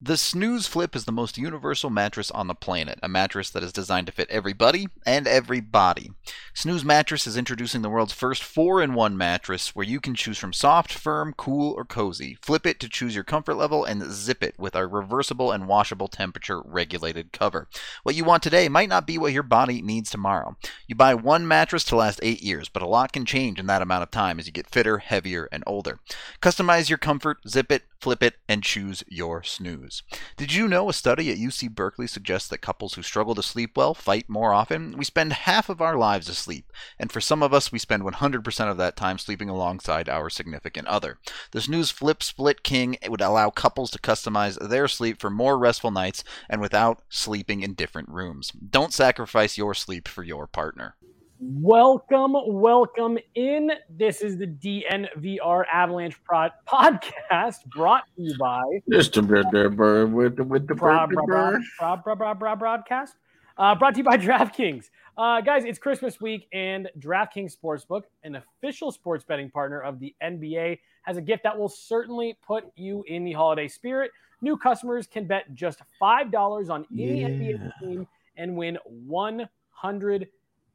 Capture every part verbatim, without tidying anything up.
The Snooze Flip is the most universal mattress on the planet, a mattress that is designed to fit everybody and every body. Snooze Mattress is introducing the world's first four in one mattress where you can choose from soft, firm, cool, or cozy. Flip it to choose your comfort level and zip it with our reversible and washable temperature regulated cover. What you want today might not be what your body needs tomorrow. You buy one mattress to last eight years, but a lot can change in that amount of time as you get fitter, heavier, and older. Customize your comfort, zip it, flip it, and choose your snooze. Did you know a study at U C Berkeley suggests that couples who struggle to sleep well fight more often? We spend half of our lives asleep, and for some of us, we spend one hundred percent of that time sleeping alongside our significant other. The Snooze Flip Split King would allow couples to customize their sleep for more restful nights and without sleeping in different rooms. Don't sacrifice your sleep for your partner. Welcome, welcome in. This is the D N V R Avalanche Prod podcast brought to you by Just a bit there, bird with the with the Bra- bird, bra- bird. bra- bra- bra- bra- broadcast. Uh, brought to you by DraftKings. Uh, guys, it's Christmas week, and DraftKings Sportsbook, an official sports betting partner of the N B A, has a gift that will certainly put you in the holiday spirit. New customers can bet just five dollars on any Yeah. N B A team and win one hundred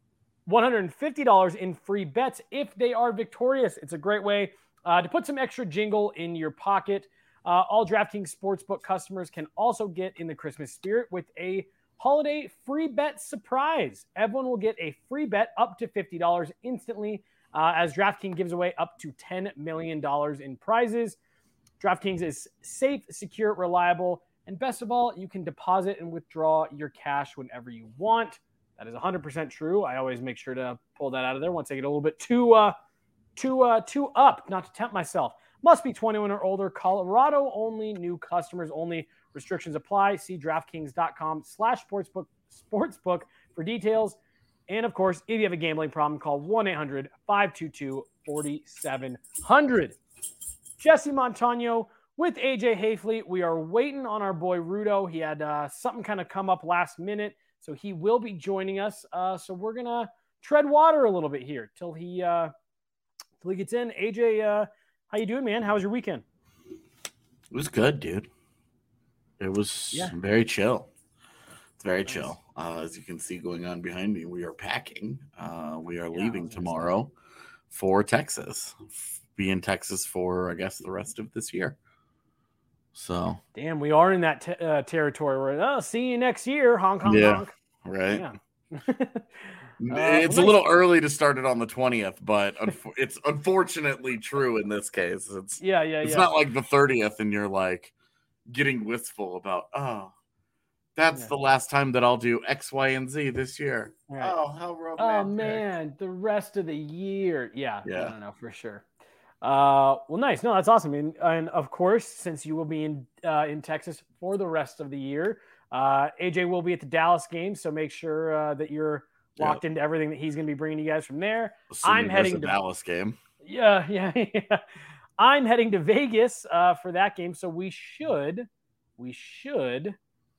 one hundred fifty dollars in free bets if they are victorious. It's a great way uh, to put some extra jingle in your pocket. Uh, all DraftKings Sportsbook customers can also get in the Christmas spirit with a holiday free bet surprise. Everyone will get a free bet up to fifty dollars instantly uh, as DraftKings gives away up to ten million dollars in prizes. DraftKings is safe, secure, reliable, and best of all, you can deposit and withdraw your cash whenever you want. That is one hundred percent true. I always make sure to pull that out of there once I get a little bit too uh, too uh, too up, not to tempt myself. Must be twenty-one or older. Colorado only. New customers only. Restrictions apply. See DraftKings.com slash sportsbook sportsbook for details. And of course, if you have a gambling problem, call one eight hundred five two two four seven zero zero. Jesse Montano with A J Hayfleet. We are waiting on our boy Rudo. He had uh, something kind of come up last minute. So he will be joining us. Uh, so we're going to tread water a little bit here till he uh, till he gets in. A J, uh, how you doing, man? How was your weekend? It was good, dude. It was Yeah. very chill. It's very Nice. chill. Uh, as you can see going on behind me, we are packing. Uh, we are Yeah, leaving I was gonna tomorrow for Texas. Be in Texas for, I guess, the rest of this year. So, Damn, we are in that te- uh, territory where, oh, see you next year, honk, honk, Yeah. honk. right. Yeah. It's well, a little early to start it on the twentieth, but unf- it's unfortunately true in this case. It's yeah, yeah, it's yeah. not like the thirtieth and you're like getting wistful about, oh, that's Yeah. the last time that I'll do X, Y, and Z this year. Right. Oh, how romantic. Oh, man, the rest of the year. Yeah, Yeah. I don't know, for sure. Uh, well, nice. No, that's awesome. And, and of course, since you will be in uh, in Texas for the rest of the year, uh, A J will be at the Dallas game, so make sure uh, that you're locked into everything that he's going to be bringing you guys from there. Assuming I'm there's heading a to- Dallas game. Yeah, yeah, yeah. I'm heading to Vegas uh, for that game, so we should, we should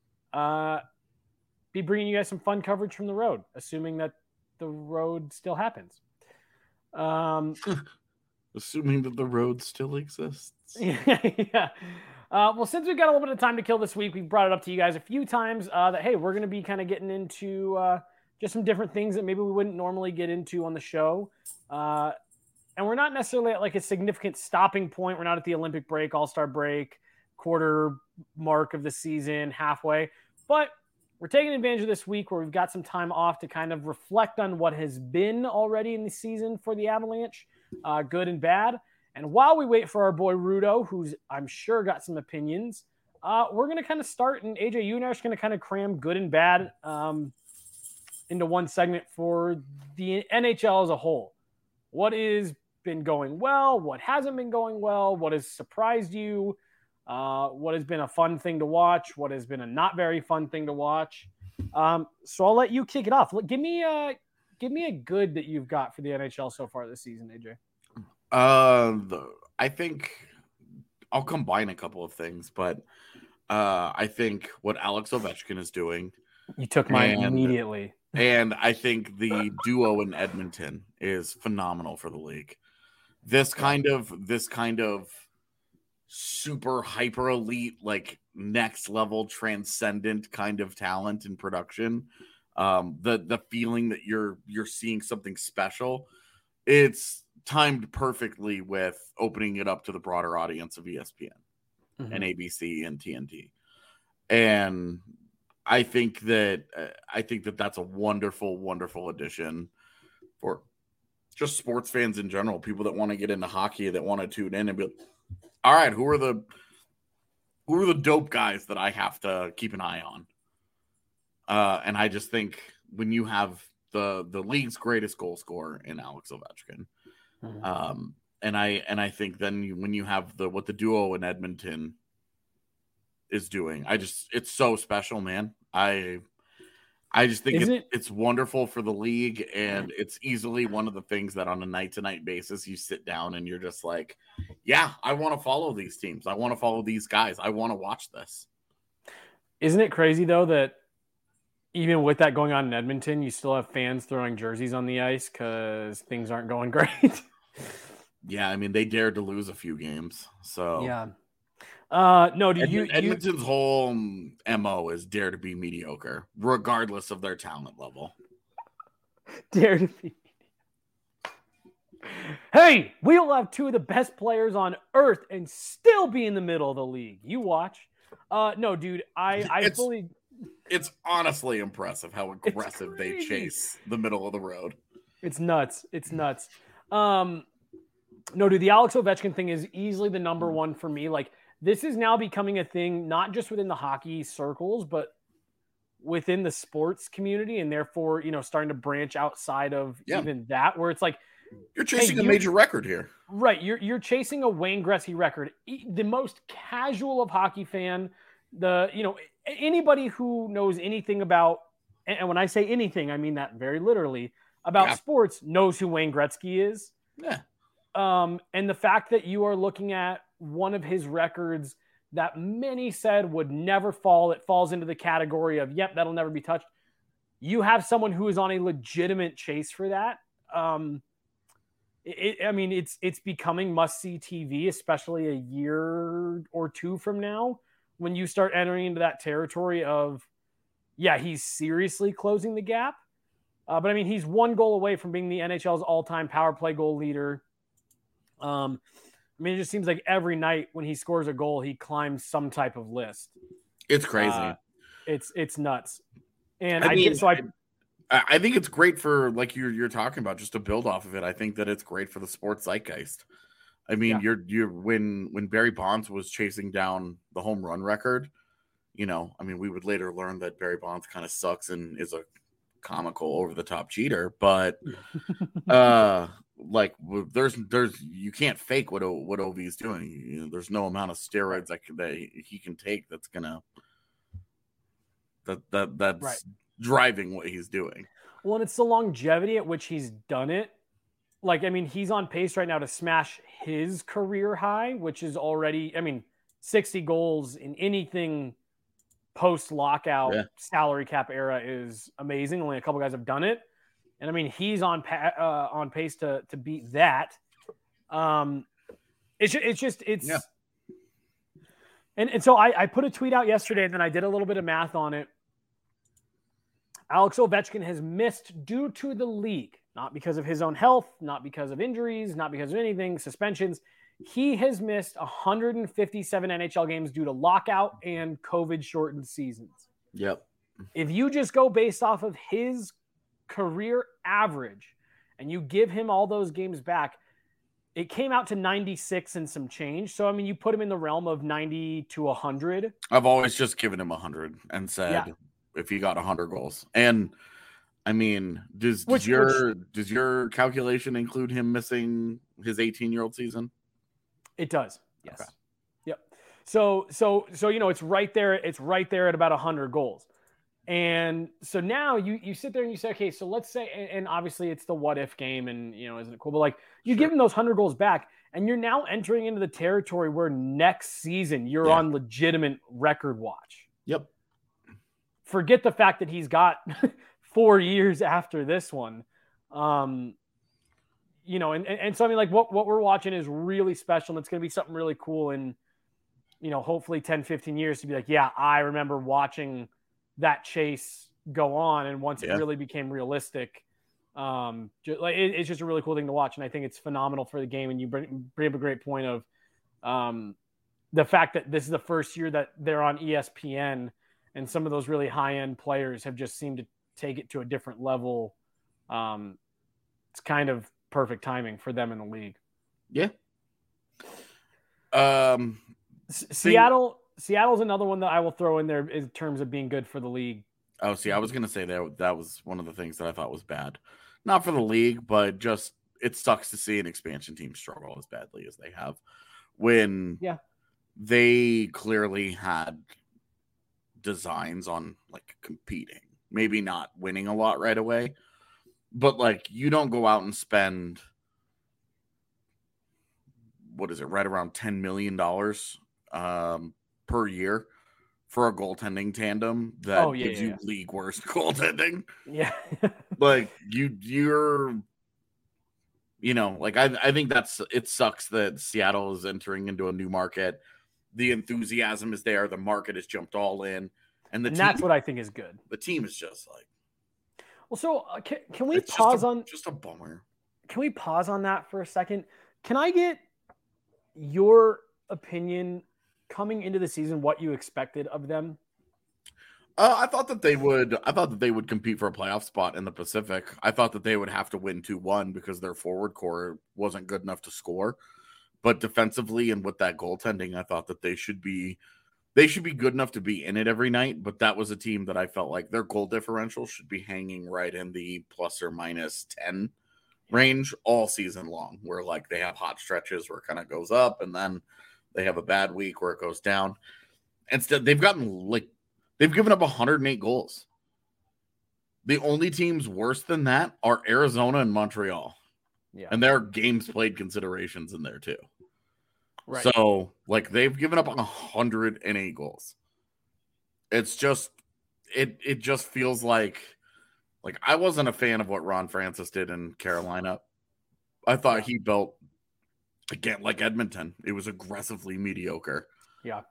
uh, be bringing you guys some fun coverage from the road, assuming that the road still happens. Um, Assuming that the road still exists. yeah. Uh, well, since we've got a little bit of time to kill this week, we've brought it up to you guys a few times uh, that, hey, we're going to be kind of getting into uh, just some different things that maybe we wouldn't normally get into on the show. Uh, and we're not necessarily at like a significant stopping point. We're not at the Olympic break, All-Star break, quarter mark of the season, halfway. But we're taking advantage of this week where we've got some time off to kind of reflect on what has been already in the season for the Avalanche, uh, good and bad. And while we wait for our boy Rudo, who's I'm sure got some opinions, uh, we're going to kind of start. And A J, you and I are going to kind of cram good and bad um, into one segment for the N H L as a whole. What has been going well? What hasn't been going well? What has surprised you? Uh, what has been a fun thing to watch? What has been a not very fun thing to watch? Um, so I'll let you kick it off. Give me a give me a good that you've got for the N H L so far this season, A J. Uh, the, I think I'll combine a couple of things, but uh, I think what Alex Ovechkin is doing, You took mine And- immediately. and I think the duo in Edmonton is phenomenal for the league. This kind of this kind of super hyper elite, like next level transcendent kind of talent in production. Um, the the feeling that you're you're seeing something special, it's timed perfectly with opening it up to the broader audience of E S P N mm-hmm. and A B C and T N T. And I think that uh, I think that that's a wonderful, wonderful addition for just sports fans in general, people that want to get into hockey, that want to tune in and be like, all right, who are the who are the dope guys that I have to keep an eye on? Uh, and I just think when you have the the league's greatest goal scorer in Alex Ovechkin, mm-hmm. um, and I and I think then you, when you have the what the duo in Edmonton is doing, I just it's so special, man. I I just think it, it? it's wonderful for the league, and it's easily one of the things that on a night to night basis you sit down and you're just like, yeah, I want to follow these teams. I want to follow these guys. I want to watch this. Isn't it crazy though that even with that going on in Edmonton, you still have fans throwing jerseys on the ice because things aren't going great? Yeah, I mean, they dared to lose a few games. So yeah. Uh, no, do you, Edmonton's you... whole M O is dare to be mediocre, regardless of their talent level. Dare to be. Hey, we'll have two of the best players on earth and still be in the middle of the league. You watch. Uh, no, dude, I, I it's, fully. It's honestly impressive how aggressive they chase the middle of the road. It's nuts. It's nuts. Um, no, dude, the Alex Ovechkin thing is easily the number one for me. Like, this is now becoming a thing, not just within the hockey circles, but within the sports community, and therefore, you know, starting to branch outside of yeah. even that, where it's like, you're chasing hey, a major record here. Right. You're you're chasing a Wayne Gretzky record. The most casual of hockey fan, the, you know, anybody who knows anything about, and when I say anything, I mean that very literally, about yeah. sports, knows who Wayne Gretzky is. Yeah. Um, and the fact that you are looking at one of his records that many said would never fall, it falls into the category of, yep, that'll never be touched. You have someone who is on a legitimate chase for that. Um, It, I mean, it's it's becoming must-see T V, especially a year or two from now, when you start entering into that territory of, yeah, he's seriously closing the gap. Uh, but, I mean, he's one goal away from being the N H L's all-time power play goal leader. Um, I mean, it just seems like every night when he scores a goal, he climbs some type of list. It's crazy. Uh, it's it's nuts. And I, I mean, did, so I – I think it's great for, like you're you're talking about, just to build off of it. I think that it's great for the sports zeitgeist. I mean, yeah. you're you're when when Barry Bonds was chasing down the home run record, you know, I mean, we would later learn that Barry Bonds kind of sucks and is a comical over the top cheater, but uh, like there's there's you can't fake what o, what O V's doing. You know, there's no amount of steroids that that he can take that's gonna that that that's. Right. driving what he's doing. Well, and it's the longevity at which he's done it. Like, I mean, he's on pace right now to smash his career high, which is already, I mean, sixty goals in anything post-lockout yeah. salary cap era is amazing. Only a couple guys have done it. And I mean, he's on pa- uh, on pace to to beat that. Um, it's, it's just, it's, yeah. and, and so I, I put a tweet out yesterday, and then I did a little bit of math on it. Alex Ovechkin has missed due to the league, not because of his own health, not because of injuries, not because of anything, suspensions. He has missed one hundred fifty-seven N H L games due to lockout and COVID-shortened seasons. Yep. If you just go based off of his career average and you give him all those games back, it came out to ninety-six and some change. So, I mean, you put him in the realm of ninety to one hundred. I've always just given him one hundred and said... Yeah. If he got one hundred goals. And I mean, does, which, does your which, does your calculation include him missing his eighteen-year-old season? It does. Yes. Okay. Yep. So so so you know, it's right there it's right there at about one hundred goals. And so now you you sit there and you say, okay, so let's say, and, and obviously it's the what if game, and you know, isn't it cool? But like, you sure. give him those one hundred goals back, and you're now entering into the territory where next season you're yeah. on legitimate record watch. Yep. Forget the fact that he's got four years after this one. Um, you know, and, and, and so, I mean, like what, what we're watching is really special, and it's going to be something really cool. And you know, hopefully ten, fifteen years to be like, yeah, I remember watching that chase go on. And once Yeah. it really became realistic, um, just, like it, it's just a really cool thing to watch. And I think it's phenomenal for the game. And you bring, bring up a great point of um, the fact that this is the first year that they're on E S P N, and some of those really high end players have just seemed to take it to a different level. Um, it's kind of perfect timing for them in the league. Yeah. Um, S- Seattle, Seattle's another one that I will throw in there in terms of being good for the league. Oh, see, I was going to say that that was one of the things that I thought was bad. Not for the league, but just it sucks to see an expansion team struggle as badly as they have when yeah. they clearly had designs on like competing, maybe not winning a lot right away, but like you don't go out and spend, what is it, right around ten million dollars um, per year for a goaltending tandem that oh, yeah, gives yeah, you yeah. league worst goaltending. Yeah. Like you, you're, you know, like I, I think that's, it sucks that Seattle is entering into a new market. The enthusiasm is there. The market has jumped all in. And, the and team, that's what I think is good. The team is just like, well, so uh, can, can we it's pause just a, on, just a bummer. Can we pause on that for a second? Can I get your opinion coming into the season, what you expected of them? Uh, I thought that they would. I thought that they would compete for a playoff spot in the Pacific. I thought that they would have to win two one because their forward core wasn't good enough to score. But defensively and with that goaltending, I thought that they should be. They should be good enough to be in it every night. But that was a team that I felt like their goal differential should be hanging right in the plus or minus ten range all season long. Where like they have hot stretches where it kind of goes up, and then they have a bad week where it goes down. Instead, they've gotten like. They've given up one hundred eight goals. The only teams worse than that are Arizona and Montreal. Yeah. And there are games played considerations in there too. Right. So, like, they've given up one hundred eight goals. It's just, it it just feels like, like, I wasn't a fan of what Ron Francis did in Carolina. I thought Yeah. he built, again, like Edmonton. It was aggressively mediocre. Yeah.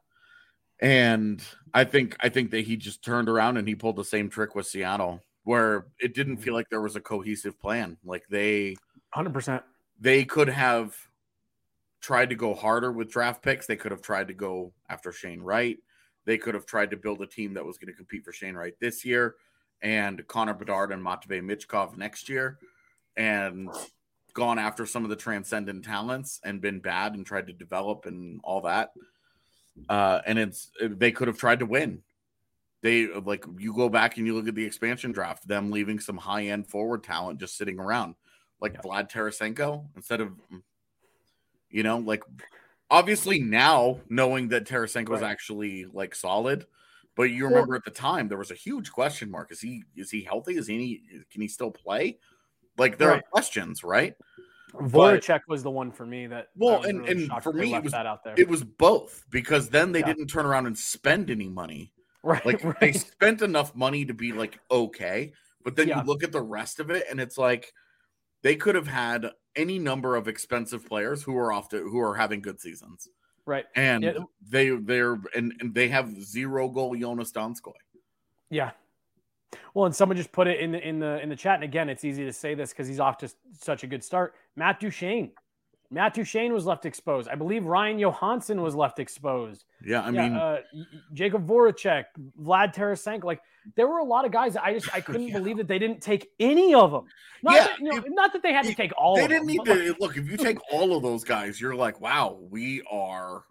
And I think I think that he just turned around and he pulled the same trick with Seattle, where it didn't feel like there was a cohesive plan. Like they, one hundred percent. They could have tried to go harder with draft picks. They could have tried to go after Shane Wright. They could have tried to build a team that was going to compete for Shane Wright this year and Connor Bedard and Matvei Michkov next year, and gone after some of the transcendent talents and been bad and tried to develop and all that. Uh, and it's they could have tried to win. They like you go back and you look at the expansion draft, them leaving some high end forward talent just sitting around, like yeah. Vlad Tarasenko instead of, you know, like obviously now knowing that Tarasenko is right. actually like solid, but you remember well, at the time there was a huge question mark. Is he is he healthy? Is he can he still play? Like there right. are questions, right? Voracek was the one for me that well, and, really and for me, it was, that out there. it was both because then they yeah. didn't turn around and spend any money. Right. Like right. they spent enough money to be like, okay. But then yeah. you look at the rest of it and it's like they could have had any number of expensive players who are off to, who are having good seasons. Right. And yeah. they, they're, and, and they have zero goal Jonas Donskoy. Yeah. Well, and someone just put it in the in the in the chat, and again, it's easy to say this because he's off to such a good start. Matt Duchene, Matt Duchene was left exposed. I believe Ryan Johansson was left exposed. Yeah, I yeah, mean, uh, Jacob Voracek, Vlad Tarasenko. Like there were a lot of guys that I just I couldn't yeah. believe that they didn't take any of them. Not yeah, that, you know, it, not that they had to take all. They of didn't them, need to like, look. If you take all of those guys, you're like, wow, we are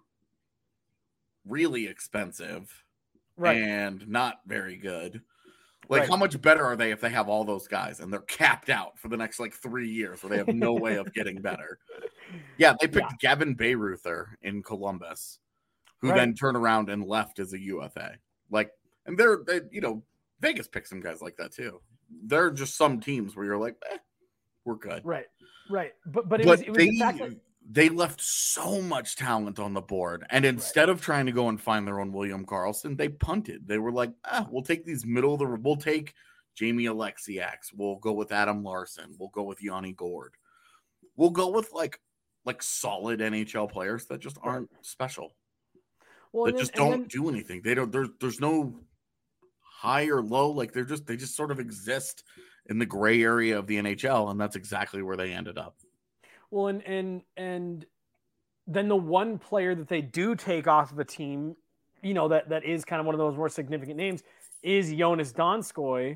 really expensive, right, and not very good. Like, right. how much better are they if they have all those guys and they're capped out for the next, like, three years where they have no way of getting better? Yeah, they picked yeah. Gavin Bayreuther in Columbus, who right. then turned around and left as a U F A. Like, and they're, they, you know, Vegas picks some guys like that, too. They're just some teams where you're like, eh, we're good. Right, right. But, but it but was, it was they, the fact that... they left so much talent on the board. And instead right. of trying to go and find their own William Karlsson, they punted. They were like, ah, we'll take these middle of the, we'll take Jamie Alexiaks. We'll go with Adam Larson. We'll go with Yanni Gord. We'll go with like, like solid N H L players that just aren't right. special. Well, that and then, just and don't then, do anything. They don't. There's there's no high or low. Like they're just they just sort of exist in the gray area of the N H L, and that's exactly where they ended up. well, and and and then the one player that they do take off of a team, you know, that that is kind of one of those more significant names is Jonas Donskoy.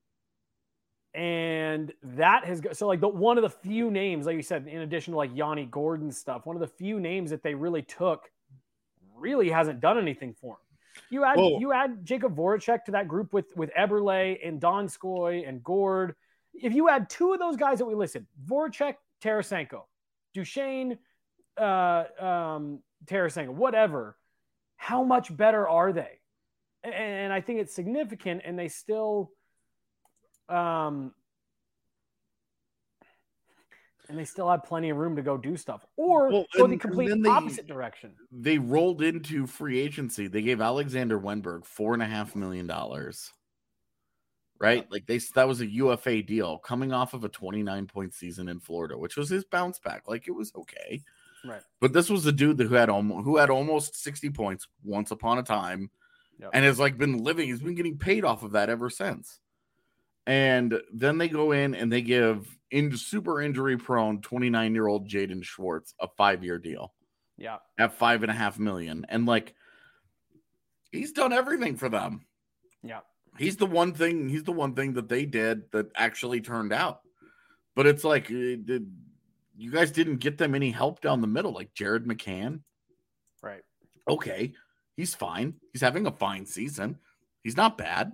And that has so like the one of the few names, like you said, in addition to like Yanni Gordon stuff, one of the few names that they really took really hasn't done anything for him. You add Well- you add Jacob Voracek to that group with with Eberle and Donskoy and Gord. If you add two of those guys that we listed, Voracek, Tarasenko, Duchesne, uh, um, Tarasenko, whatever, how much better are they? And, and I think it's significant, and they still. Um, and they still have plenty of room to go do stuff or Well, go and- the complete and then they- opposite direction. They rolled into free agency. They gave Alexander Wenberg four and a half million dollars. Right, like they that was a U F A deal coming off of a twenty-nine point season in Florida, which was his bounce back. Like it was okay, Right. but this was the dude that who had almost who had almost sixty points once upon a time, Yep. and has like been living. He's been getting paid off of that ever since. And then they go in and they give in super injury prone twenty-nine year old Jaden Schwartz a five year deal Yeah. at five and a half million. And like, he's done everything for them. Yeah. He's the one thing, he's the one thing that they did that actually turned out. But it's like, uh, did, you guys didn't get them any help down the middle, like Jared McCann. Right. Okay. He's fine. He's having a fine season. He's not bad.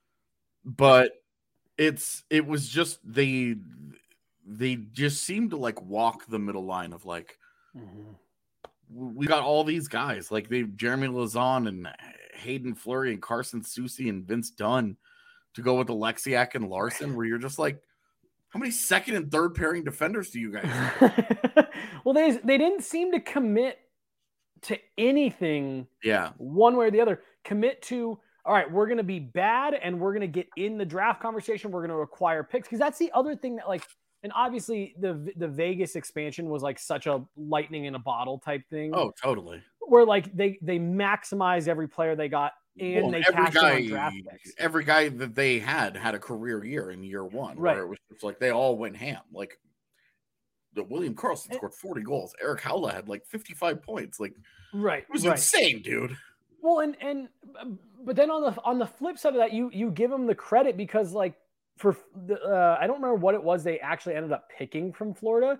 But it's it was just they they just seemed to like walk the middle line of like Mm-hmm. we got all these guys like they Jeremy Lazon and Hayden Fleury and Carson Soucy and Vince Dunn to go with Alexiak and Larson, where you're just like, how many second and third pairing defenders do you guys have? Well, they they didn't seem to commit to anything Yeah. one way or the other. Commit to, all right, we're going to be bad and we're going to get in the draft conversation. We're going to acquire picks. Because that's the other thing that, like, and obviously the the Vegas expansion was like such a lightning in a bottle type thing. Oh, totally. Where like they they maximized every player they got and Well, they every cashed in guy, on draft picks. every guy that they had had a career year in year one, Right. where it was just like they all went ham. Like the William Karlsson And- scored forty goals. Eric Howla had like fifty-five points. Like Right. it was right. insane, dude. Well, and and but then on the on the flip side of that, you you give them the credit because like for the uh, I don't remember what it was they actually ended up picking from Florida,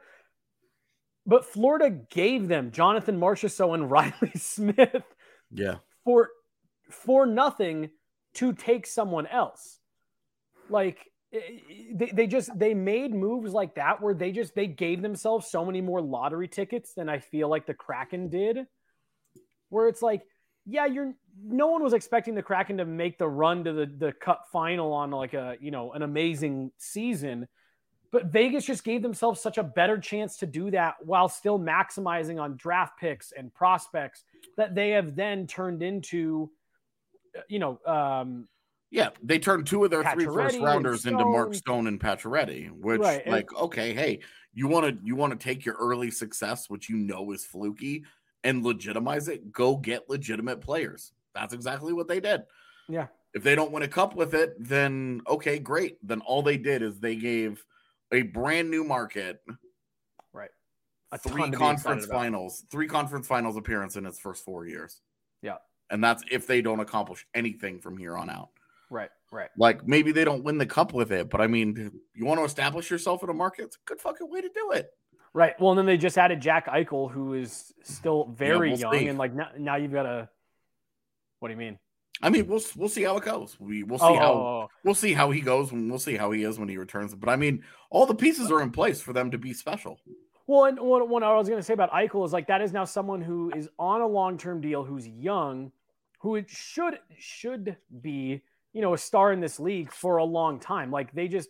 but Florida gave them Jonathan Marchessault and Riley Smith Yeah. for for nothing to take someone else. Like they, they just they made moves like that where they just they gave themselves so many more lottery tickets than I feel like the Kraken did. Where it's like, yeah, you're no one was expecting the Kraken to make the run to the, the cup final on like a, you know, an amazing season. But Vegas just gave themselves such a better chance to do that while still maximizing on draft picks and prospects that they have then turned into, you know, um, Yeah, they turned two of their three Pacioretty first and rounders into Mark Stone. Stone and Pacioretty, which Right, and- like okay, hey, you want to you want to take your early success, which you know is fluky, and legitimize it. Go get legitimate players. That's exactly what they did. yeah, If they don't win a cup with it, then okay, great. Then all they did is they gave a brand new market right. A three ton to be conference excited about. finals, three conference finals appearance in its first four years. Yeah, And that's if they don't accomplish anything from here on out. right, right. Like maybe they don't win the cup with it, but I mean, you want to establish yourself in a market? It's a good fucking way to do it. Right. Well, and then they just added Jack Eichel, who is still very we'll young, see. and like now, now you've got a. What do you mean? I mean, we'll we'll see how it goes. We we'll see Oh, how oh, oh. we'll see how he goes when we'll see how he is when he returns. But I mean, all the pieces are in place for them to be special. Well, and what, what I was going to say about Eichel is like that is now someone who is on a long term deal, who's young, who it should should be, you know, a star in this league for a long time. Like they just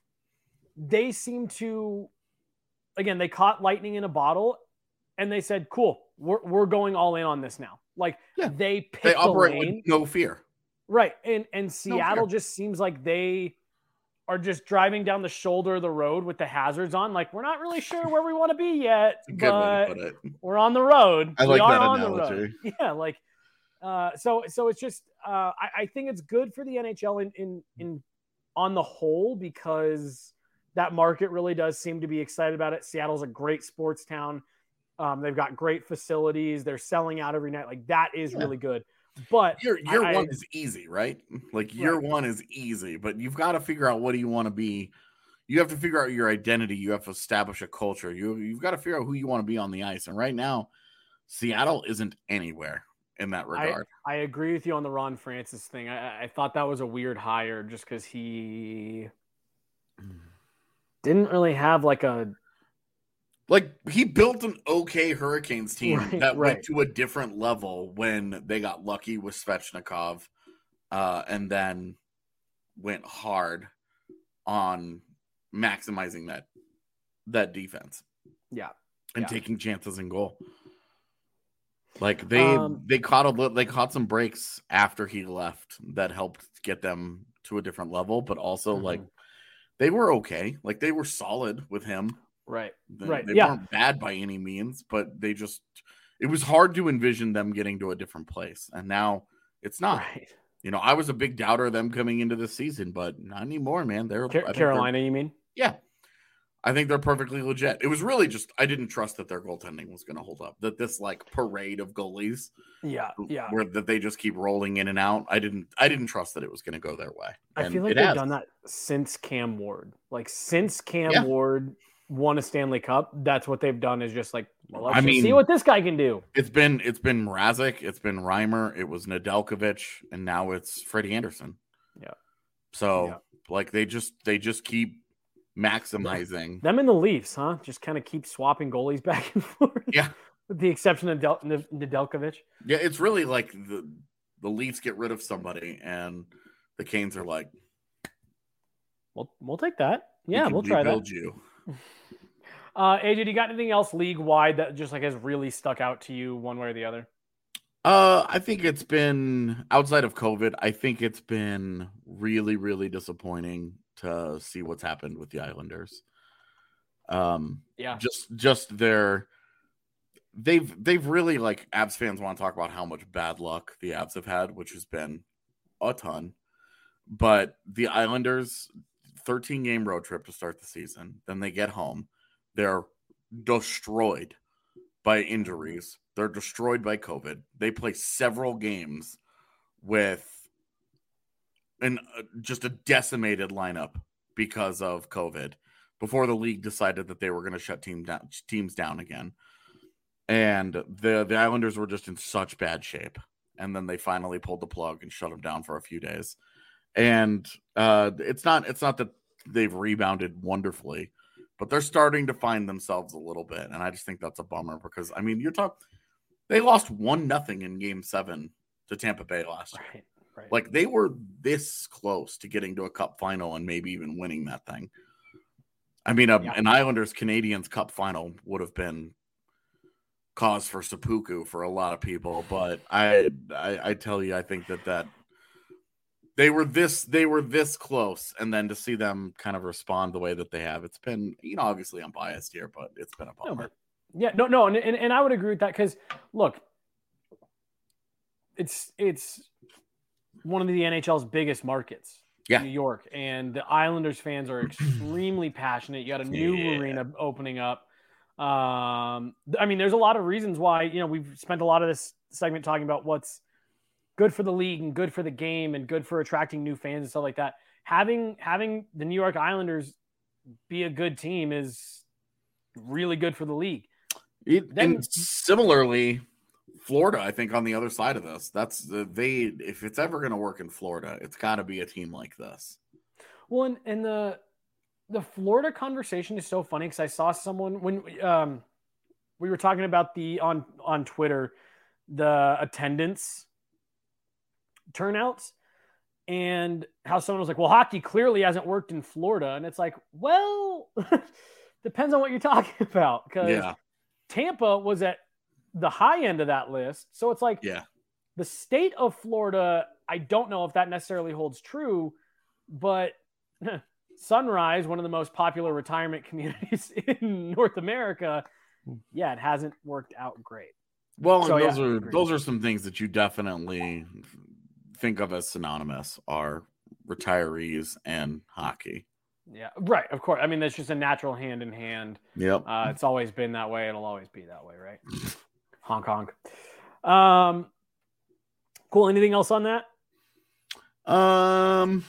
they seem to, again, they caught lightning in a bottle, and they said, "Cool, we're we're going all in on this now." Like Yeah. they picked They the operate lane. with no fear. Right. And and Seattle fear. just seems like they are just driving down the shoulder of the road with the hazards on. Like, we're not really sure where we want to be yet, It's a good way but to put it. we're on the road. I we like are that on analogy. the road. Yeah, like Uh, so so it's just uh, I, I think it's good for the N H L in in in on the whole because that market really does seem to be excited about it. Seattle's a great sports town. Um, they've got great facilities. They're selling out every night. Like that is yeah. really good. But year year I, one I, is easy, right? Like year right. one is easy, but you've got to figure out what do you want to be. You have to figure out your identity. You have to establish a culture. You you've got to figure out who you want to be on the ice. And right now, Seattle isn't anywhere in that regard. I, I agree with you on the Ron Francis thing. I, I thought that was a weird hire just because he didn't really have like a like he built an okay Hurricanes team right, that right. went to a different level when they got lucky with Svechnikov, uh, and then went hard on maximizing that that defense. Yeah, and yeah. taking chances in goal. Like they um, they caught a they caught some breaks after he left that helped get them to a different level, but also mm-hmm. like they were okay. Like they were solid with him. Right. They, right. They yeah. weren't bad by any means, but they just it was hard to envision them getting to a different place. And now it's not. Right. You know, I was a big doubter of them coming into the season, but not anymore, man. They're Car- Carolina, you mean? Yeah. I think they're perfectly legit. It was really just I didn't trust that their goaltending was going to hold up. That this like parade of goalies, yeah, yeah, where that they just keep rolling in and out. I didn't, I didn't trust that it was going to go their way. And I feel like they've has. done that since Cam Ward. Like since Cam yeah. Ward won a Stanley Cup, that's what they've done. Is just like, well, let's I just mean, see what this guy can do. It's been, it's been Mrazek, it's been Reimer, it was Nedeljkovic, and now it's Freddie Anderson. Yeah. So yeah. like they just, they just keep maximizing them in the Leafs, huh? Just kind of keep swapping goalies back and forth. Yeah, with the exception of Del- Nedeljkovic. Yeah, it's really like the the Leafs get rid of somebody, and the Canes are like, "We'll we'll take that. Yeah, we we'll try that." You. Uh, A J, do you got anything else league wide that just like has really stuck out to you one way or the other? Uh, I think it's been outside of COVID. I think it's been really, really disappointing to see what's happened with the Islanders. Um, yeah, just, just their, they've, they've really like Abs fans want to talk about how much bad luck the Abs have had, which has been a ton, but the Islanders thirteen game road trip to start the season. Then they get home. They're destroyed by injuries. They're destroyed by COVID. They play several games with an uh, just a decimated lineup because of COVID before the league decided that they were going to shut team down, teams down again. And the, the Islanders were just in such bad shape. And then they finally pulled the plug and shut them down for a few days. And uh, it's not it's not that they've rebounded wonderfully, but they're starting to find themselves a little bit. And I just think that's a bummer because, I mean, you're talking – they lost one nothing in game seven to Tampa Bay last year. Right, right. Like, they were this close to getting to a cup final and maybe even winning that thing. I mean, a, yeah. an Islanders-Canadiens cup final would have been cause for seppuku for a lot of people. But I, I, I tell you, I think that that – They were this they were this close, and then to see them kind of respond the way that they have, it's been, you know, obviously I'm biased here, but it's been a bummer. No, but, yeah, no, no, and, and and I would agree with that because look, it's it's one of the N H L's biggest markets, yeah. New York, and the Islanders fans are extremely passionate. You got a new yeah. arena opening up. Um, I mean, there's a lot of reasons why, you know, we've spent a lot of this segment talking about what's good for the league and good for the game and good for attracting new fans and stuff like that. Having having the New York Islanders be a good team is really good for the league. It, then, and similarly, Florida, I think on the other side of this, that's the, they, if it's ever going to work in Florida, it's got to be a team like this. Well, and, and the, the Florida conversation is so funny because I saw someone when um, we were talking about the on, on Twitter, the attendance turnouts and how someone was like, well, hockey clearly hasn't worked in Florida. And it's like, well, depends on what you're talking about. Because yeah. Tampa was at the high end of that list. So it's like yeah. the state of Florida, I don't know if that necessarily holds true, but Sunrise, one of the most popular retirement communities in North America, yeah, it hasn't worked out great. Well, So, and those yeah, are agreed. those are some things that you definitely think of as synonymous are retirees and hockey. Yeah, right. Of course. I mean, that's just a natural hand in hand. Yep. Uh, it's always been that way. It'll always be that way, right? Honk honk. Um, cool. Anything else on that? Um,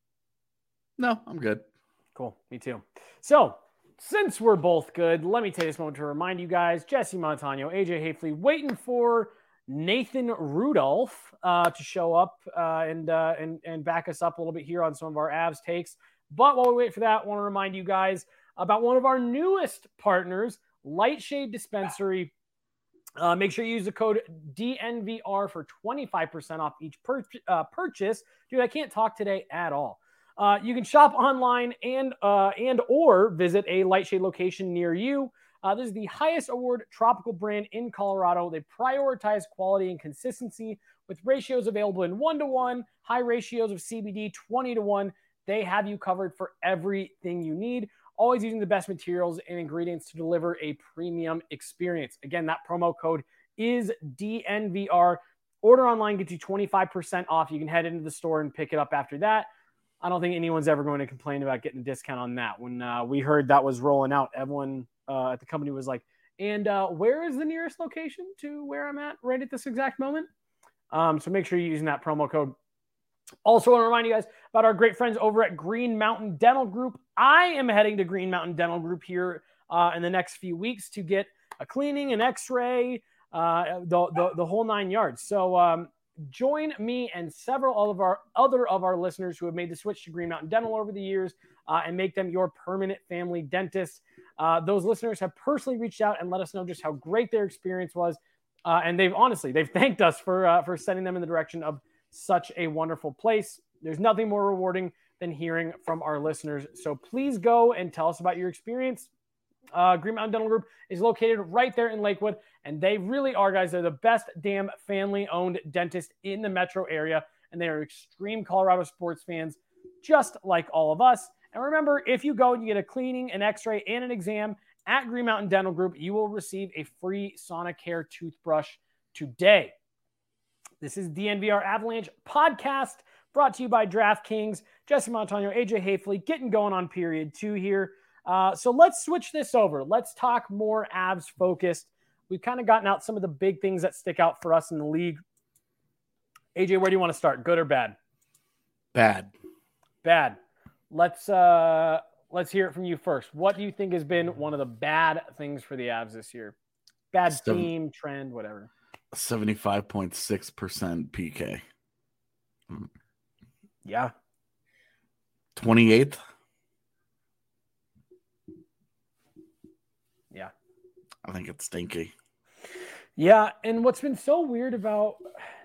no, I'm good. Cool. Me too. So, since we're both good, let me take this moment to remind you guys, Jesse Montano, A J Hafley, waiting for Nathan Rudolph uh, to show up uh, and, uh, and, and back us up a little bit here on some of our Avs takes. But while we wait for that, I want to remind you guys about one of our newest partners, Lightshade Dispensary. Uh, make sure you use the code D N V R for twenty-five percent off each pur- uh, purchase. Dude, I can't talk today at all. Uh, you can shop online and uh, and or visit a Lightshade location near you. Uh, this is the highest award tropical brand in Colorado. They prioritize quality and consistency with ratios available in one to one, high ratios of C B D twenty to one. They have you covered for everything you need, always using the best materials and ingredients to deliver a premium experience. Again, that promo code is D N V R. Order online gets you twenty-five percent off. You can head into the store and pick it up after that. I don't think anyone's ever going to complain about getting a discount on that. When uh, we heard that was rolling out, everyone uh, at the company was like, and uh, where is the nearest location to where I'm at right at this exact moment? Um, so make sure you're using that promo code. Also, want to remind you guys about our great friends over at Green Mountain Dental Group. I am heading to Green Mountain Dental Group here uh, in the next few weeks to get a cleaning, an x-ray, uh, the, the, the whole nine yards. So um, join me and several of our other of our listeners who have made the switch to Green Mountain Dental over the years uh, and make them your permanent family dentist. Uh, those listeners have personally reached out and let us know just how great their experience was. Uh, and they've honestly, they've thanked us for uh, for sending them in the direction of such a wonderful place. There's nothing more rewarding than hearing from our listeners. So please go and tell us about your experience. Uh, Green Mountain Dental Group is located right there in Lakewood, and they really are, guys. They're the best damn family-owned dentist in the metro area, and they are extreme Colorado sports fans, just like all of us. And remember, if you go and you get a cleaning, an x-ray, and an exam at Green Mountain Dental Group, you will receive a free Sonicare toothbrush today. This is the N V R Avalanche podcast brought to you by DraftKings. Jesse Montano, A J Hafley, getting going on period two here. Uh, so let's switch this over. Let's talk more Avs focused. We've kind of gotten out some of the big things that stick out for us in the league. A J, where do you want to start? Good or bad? Bad. Bad. Let's uh, let's hear it from you first. What do you think has been one of the bad things for the Avs this year? Bad Seven. team, trend, whatever. seventy-five point six percent P K. Yeah. twenty-eighth. Yeah. I think it's stinky. Yeah, and what's been so weird about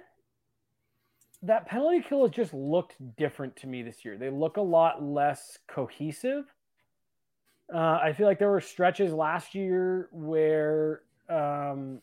that penalty kill has just looked different to me this year. They look a lot less cohesive. Uh, I feel like there were stretches last year where um,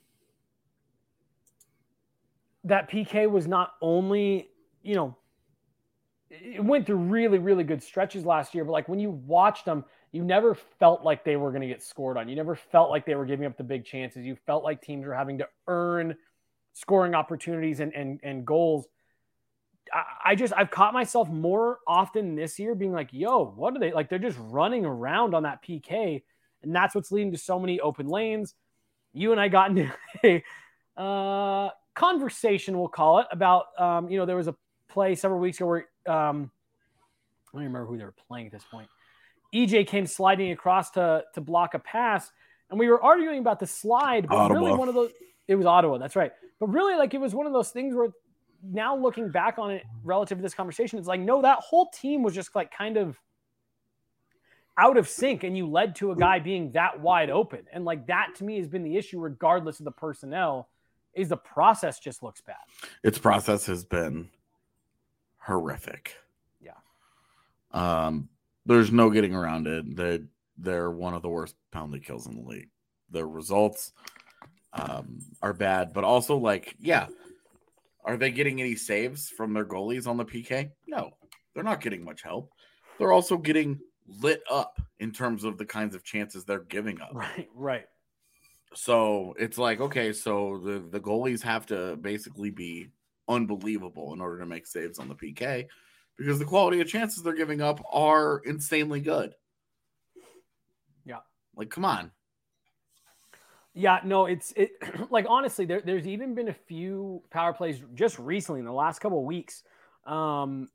that P K was not only, you know, it went through really, really good stretches last year, but like when you watched them, you never felt like they were going to get scored on. You never felt like they were giving up the big chances. You felt like teams were having to earn scoring opportunities and, and, and goals. I, I just, I've caught myself more often this year being like, yo, what are they like? They're just running around on that P K. And that's what's leading to so many open lanes. You and I got into a uh, conversation, we'll call it, about, um, you know, there was a play several weeks ago where um, I don't even remember who they were playing at this point. E J came sliding across to to block a pass, and we were arguing about the slide, but Ottawa. really one of those, it was Ottawa, that's right. But really, like, it was one of those things where now looking back on it relative to this conversation, it's like, no, that whole team was just like kind of out of sync, and you led to a guy being that wide open. And like that to me has been the issue regardless of the personnel, is the process just looks bad. Its process has been horrific. Yeah. Um, there's no getting around it. They they're one of the worst penalty kills in the league. Their results um, are bad, but also like, yeah, are they getting any saves from their goalies on the P K? No, they're not getting much help. They're also getting lit up in terms of the kinds of chances they're giving up. Right, right. So it's like, okay, so the, the goalies have to basically be unbelievable in order to make saves on the P K because the quality of chances they're giving up are insanely good. Yeah. Like, come on. Yeah, no, it's it like honestly, there, there's even been a few power plays just recently in the last couple of weeks um,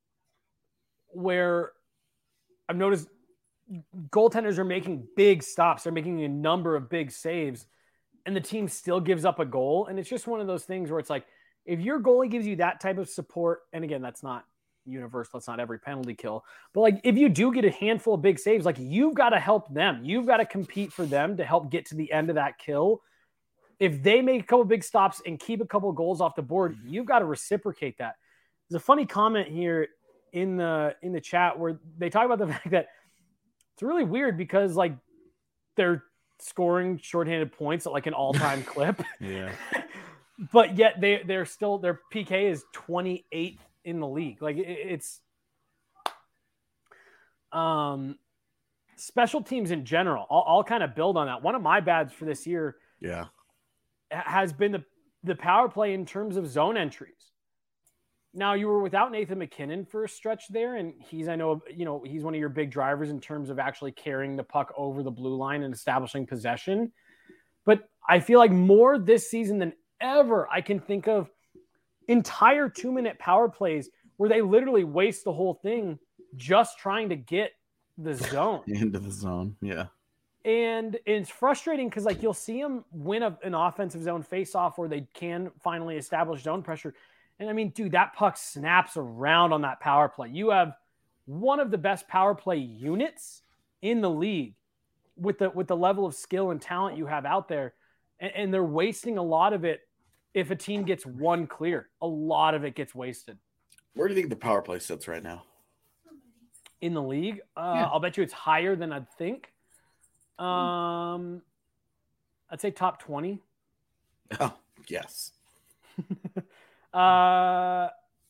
where I've noticed goaltenders are making big stops. They're making a number of big saves, and the team still gives up a goal. And it's just one of those things where it's like, if your goalie gives you that type of support, and again, that's not universal, that's not every penalty kill, but like if you do get a handful of big saves, like you've got to help them. You've got to compete for them to help get to the end of that kill. If they make a couple big stops and keep a couple of goals off the board, you've got to reciprocate that. There's a funny comment here in the in the chat where they talk about the fact that it's really weird because like they're scoring shorthanded points at like an all-time clip. Yeah. But yet they they're still their P K is twenty-eighth in the league. Like it, it's um special teams in general. I'll, I'll kind of build on that. One of my bads for this year Yeah. has been the the power play in terms of zone entries. Now you were without Nathan McKinnon for a stretch there, and he's I know you know he's one of your big drivers in terms of actually carrying the puck over the blue line and establishing possession. But I feel like more this season than ever I can think of entire two-minute power plays where they literally waste the whole thing just trying to get the zone into the zone. Yeah. And it's frustrating because like you'll see them win a, an offensive zone face-off where they can finally establish zone pressure. And I mean, dude, that puck snaps around on that power play. You have one of the best power play units in the league with the with the level of skill and talent you have out there. And, and they're wasting a lot of it if a team gets one clear. A lot of it gets wasted. Where do you think the power play sits right now? In the league? Uh, Yeah. I'll bet you it's higher than I'd think. Um, I'd say top twenty. Oh, yes. Uh,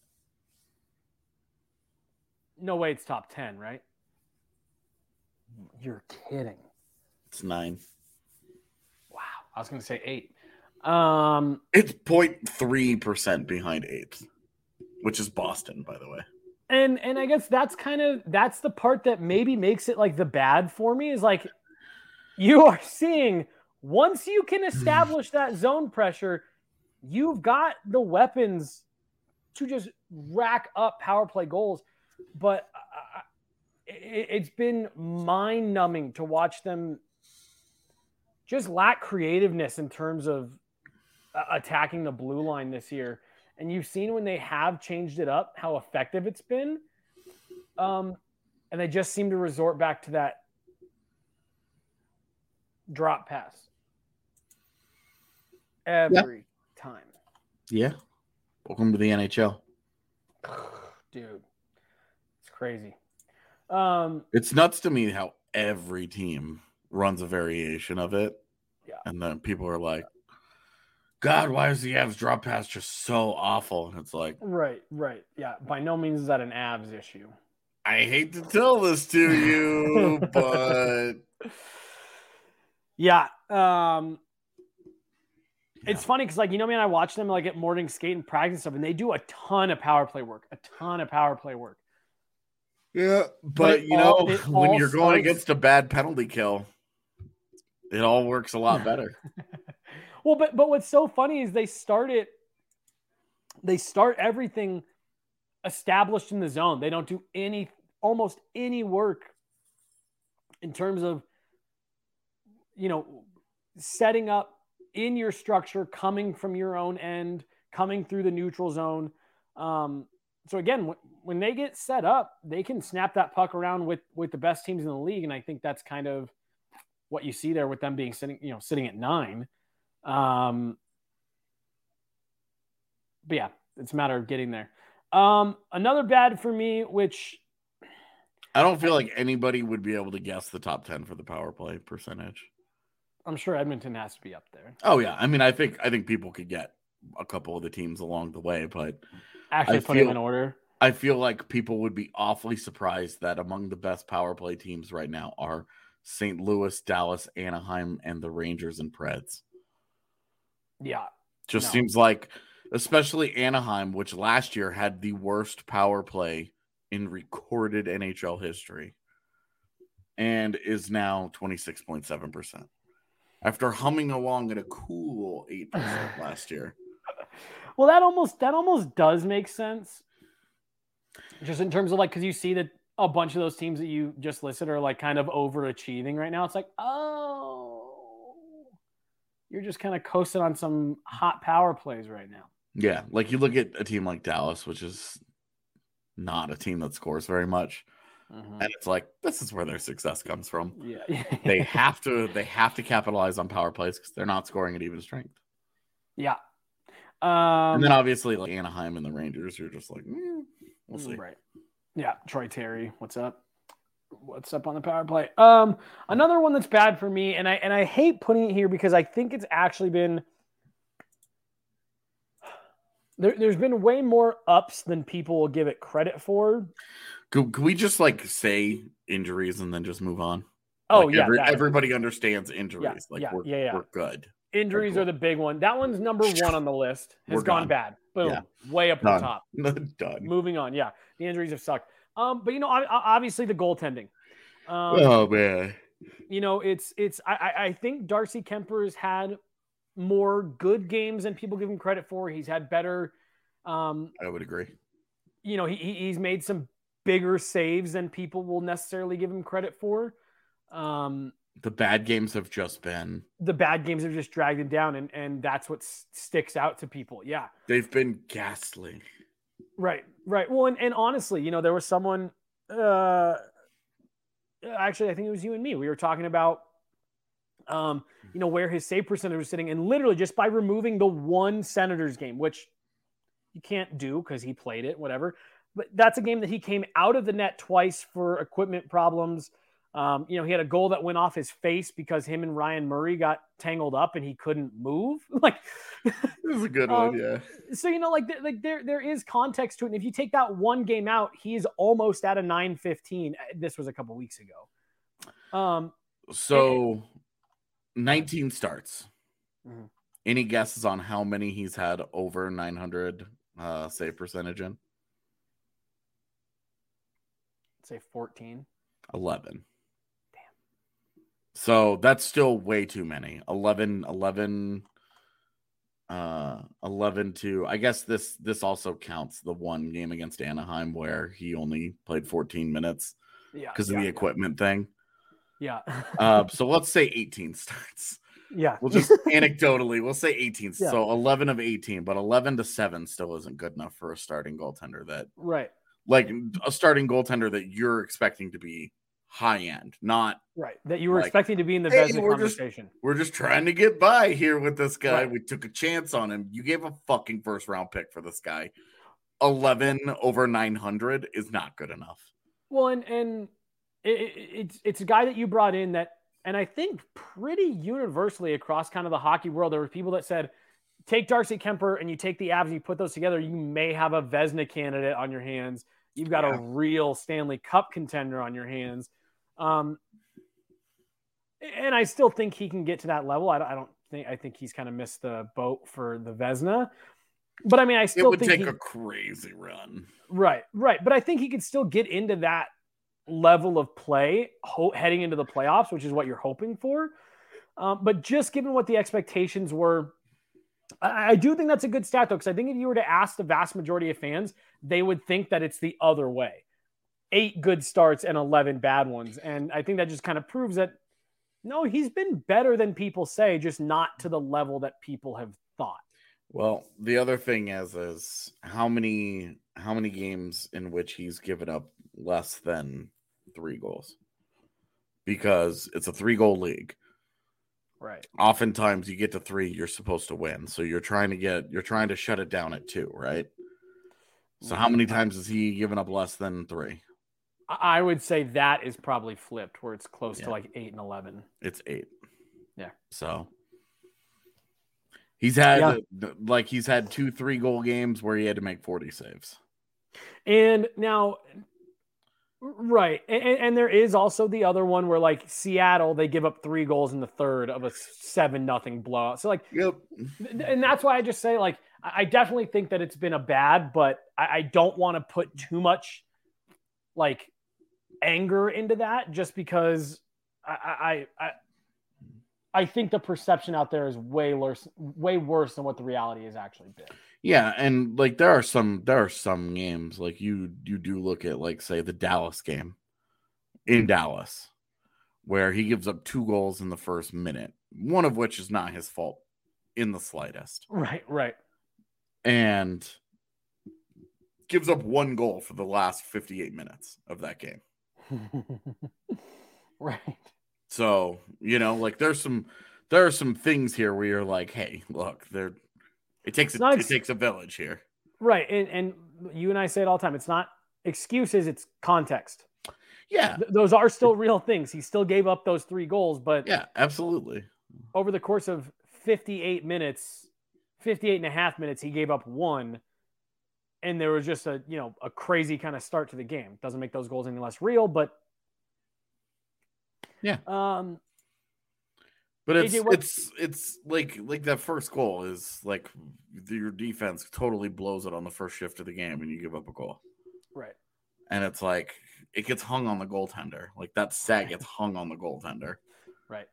no way it's top ten, right? You're kidding. It's nine. Wow. I was going to say eight. Um, It's zero point three percent behind eighth, which is Boston, by the way. and, and I guess that's kind of, that's the part that maybe makes it like the bad for me is like, you are seeing once you can establish that zone pressure, you've got the weapons to just rack up power play goals. But uh, it, it's been mind numbing to watch them just lack creativeness in terms of uh, attacking the blue line this year. And you've seen when they have changed it up, how effective it's been. Um, and they just seem to resort back to that drop pass every yeah. time. Yeah. Welcome to the N H L. Dude, it's crazy. Um, it's nuts to me how every team runs a variation of it. Yeah. And then people are like, God, why is the Avs drop pass just so awful? And it's like, right, right. Yeah. By no means is that an Avs issue. I hate to tell this to you, but yeah. Um, yeah. It's funny because, like, you know, man, I watch them like at morning skate and practice stuff, and they do a ton of power play work, a ton of power play work. Yeah, but, but you all, know, when you're starts... going against a bad penalty kill, it all works a lot better. Well, but but what's so funny is they start it, they start everything established in the zone. They don't do any, almost any work in terms of, you know, setting up in your structure, coming from your own end, coming through the neutral zone. Um, so again, w- when they get set up, they can snap that puck around with with the best teams in the league, and I think that's kind of what you see there with them being sitting, you know, sitting at nine. Um, but yeah, it's a matter of getting there. Um, another bad for me, which I don't feel like anybody would be able to guess the top ten for the power play percentage. I'm sure Edmonton has to be up there. Oh yeah, I mean, I think I think people could get a couple of the teams along the way, but actually I put feel, them in order. I feel like people would be awfully surprised that among the best power play teams right now are Saint Louis, Dallas, Anaheim, and the Rangers and Preds. Yeah. Just No. seems like, especially Anaheim, which last year had the worst power play in recorded N H L history and is now twenty-six point seven percent after humming along at a cool eight percent last year. Well, that almost that almost does make sense. Just in terms of like, because you see that a bunch of those teams that you just listed are like kind of overachieving right now. It's like, oh, you're just kind of coasting on some hot power plays right now. Yeah, like you look at a team like Dallas, which is not a team that scores very much. Mm-hmm. And it's like, this is where their success comes from. Yeah. they have to they have to capitalize on power plays because they're not scoring at even strength. Yeah. Um, and then obviously like Anaheim and the Rangers, you're just like, mm, we'll see. Right. Yeah. Troy Terry, what's up? What's up on the power play? Um, another one that's bad for me, and I and I hate putting it here because I think it's actually been there, there's been way more ups than people will give it credit for. Could, could we just like say injuries and then just move on? Oh like yeah, every, everybody understands injuries. Yeah, like yeah, we're yeah, yeah. we're good. Injuries cool. are the big one. That one's number one on the list. Has We're gone done. bad. Boom. Yeah. Way up Done. the top. Done. Moving on. Yeah. The injuries have sucked. Um, but you know, obviously the goaltending. Um, oh man. You know, it's it's I, I think Darcy Kuemper has had more good games than people give him credit for. He's had better um I would agree. You know, he he's made some bigger saves than people will necessarily give him credit for. Um The bad games have just been the bad games have just dragged him down, and and that's what s- sticks out to people. Yeah, they've been ghastly. Right, right. Well, and, and honestly, you know, there was someone. Uh, actually, I think it was you and me. We were talking about, um, you know, where his save percentage was sitting, and literally just by removing the one Senators game, which you can't do because he played it, whatever. But that's a game that he came out of the net twice for equipment problems. Um, you know, he had a goal that went off his face because him and Ryan Murray got tangled up and he couldn't move. Like, this is a good um, one, yeah. So, you know, like, like there, there is context to it. And if you take that one game out, he's almost at a nine fifteen. This was a couple weeks ago. Um, so and, nineteen starts. Mm-hmm. Any guesses on how many he's had over nine hundred uh, save percentage in? Say fourteen. eleven. So that's still way too many. eleven, eleven, uh, eleven to, I guess this, this also counts the one game against Anaheim where he only played fourteen minutes yeah, because yeah, of the yeah. equipment thing. Yeah. uh, so let's say eighteen starts. Yeah. We'll just anecdotally, we'll say eighteen. Yeah. So eleven of eighteen, but eleven to seven still isn't good enough for a starting goaltender that, right. Like a starting goaltender that you're expecting to be high end, not right. That you were like, expecting to be in the hey, Vezina we're conversation. Just, we're just trying to get by here with this guy. Right. We took a chance on him. You gave a fucking first round pick for this guy. eleven over nine hundred is not good enough. Well, and and it, it, it's it's a guy that you brought in that, and I think pretty universally across kind of the hockey world, there were people that said, take Darcy Kuemper and you take the Avs and you put those together, you may have a Vezina candidate on your hands. You've got yeah. a real Stanley Cup contender on your hands. Um, and I still think he can get to that level. I don't, I don't think, I think he's kind of missed the boat for the Vezina. But I mean, I still it would think take he, a crazy run. Right, right. But I think he could still get into that level of play ho- heading into the playoffs, which is what you're hoping for. Um, but just given what the expectations were, I, I do think that's a good stat, though, because I think if you were to ask the vast majority of fans, they would think that it's the other way. Eight good starts and eleven bad ones. And I think that just kind of proves that, no, he's been better than people say, just not to the level that people have thought. Well, the other thing is, is how many how many games in which he's given up less than three goals? Because it's a three-goal league. Right. Oftentimes you get to three, you're supposed to win. So you're trying to get you're trying to shut it down at two, right? So how many times has he given up less than three? I would say that is probably flipped, where it's close yeah. to like eight and eleven. It's eight. Yeah. So he's had yeah. like he's had two three goal games where he had to make forty saves. And now Right. And, and there is also the other one where like Seattle, they give up three goals in the third of a seven nothing blowout. So like, Yep. And that's why I just say like, I definitely think that it's been a bad, but I, I don't want to put too much like anger into that just because I, I, I, I think the perception out there is way worse, way worse than what the reality has actually been. Yeah, and like there are some there are some games like you you do look at like say the Dallas game in Dallas where he gives up two goals in the first minute, one of which is not his fault in the slightest. Right, right. And gives up one goal for the last fifty-eight minutes of that game. Right. So, you know, like there's some there are some things here where you're like, hey, look, there it takes a, ex- it takes a village here. Right. And and you and I say it all the time. It's not excuses, it's context. Yeah. Th- those are still real things. He still gave up those three goals, but yeah, absolutely. Over the course of fifty-eight minutes, fifty-eight and a half minutes, he gave up one. And there was just a, you know, a crazy kind of start to the game. Doesn't make those goals any less real, but yeah. Um, but it's, A J, what... it's, it's like, like that first goal is like your defense totally blows it on the first shift of the game and you give up a goal. Right. And it's like, it gets hung on the goaltender. Like that set gets hung on the goaltender. Right.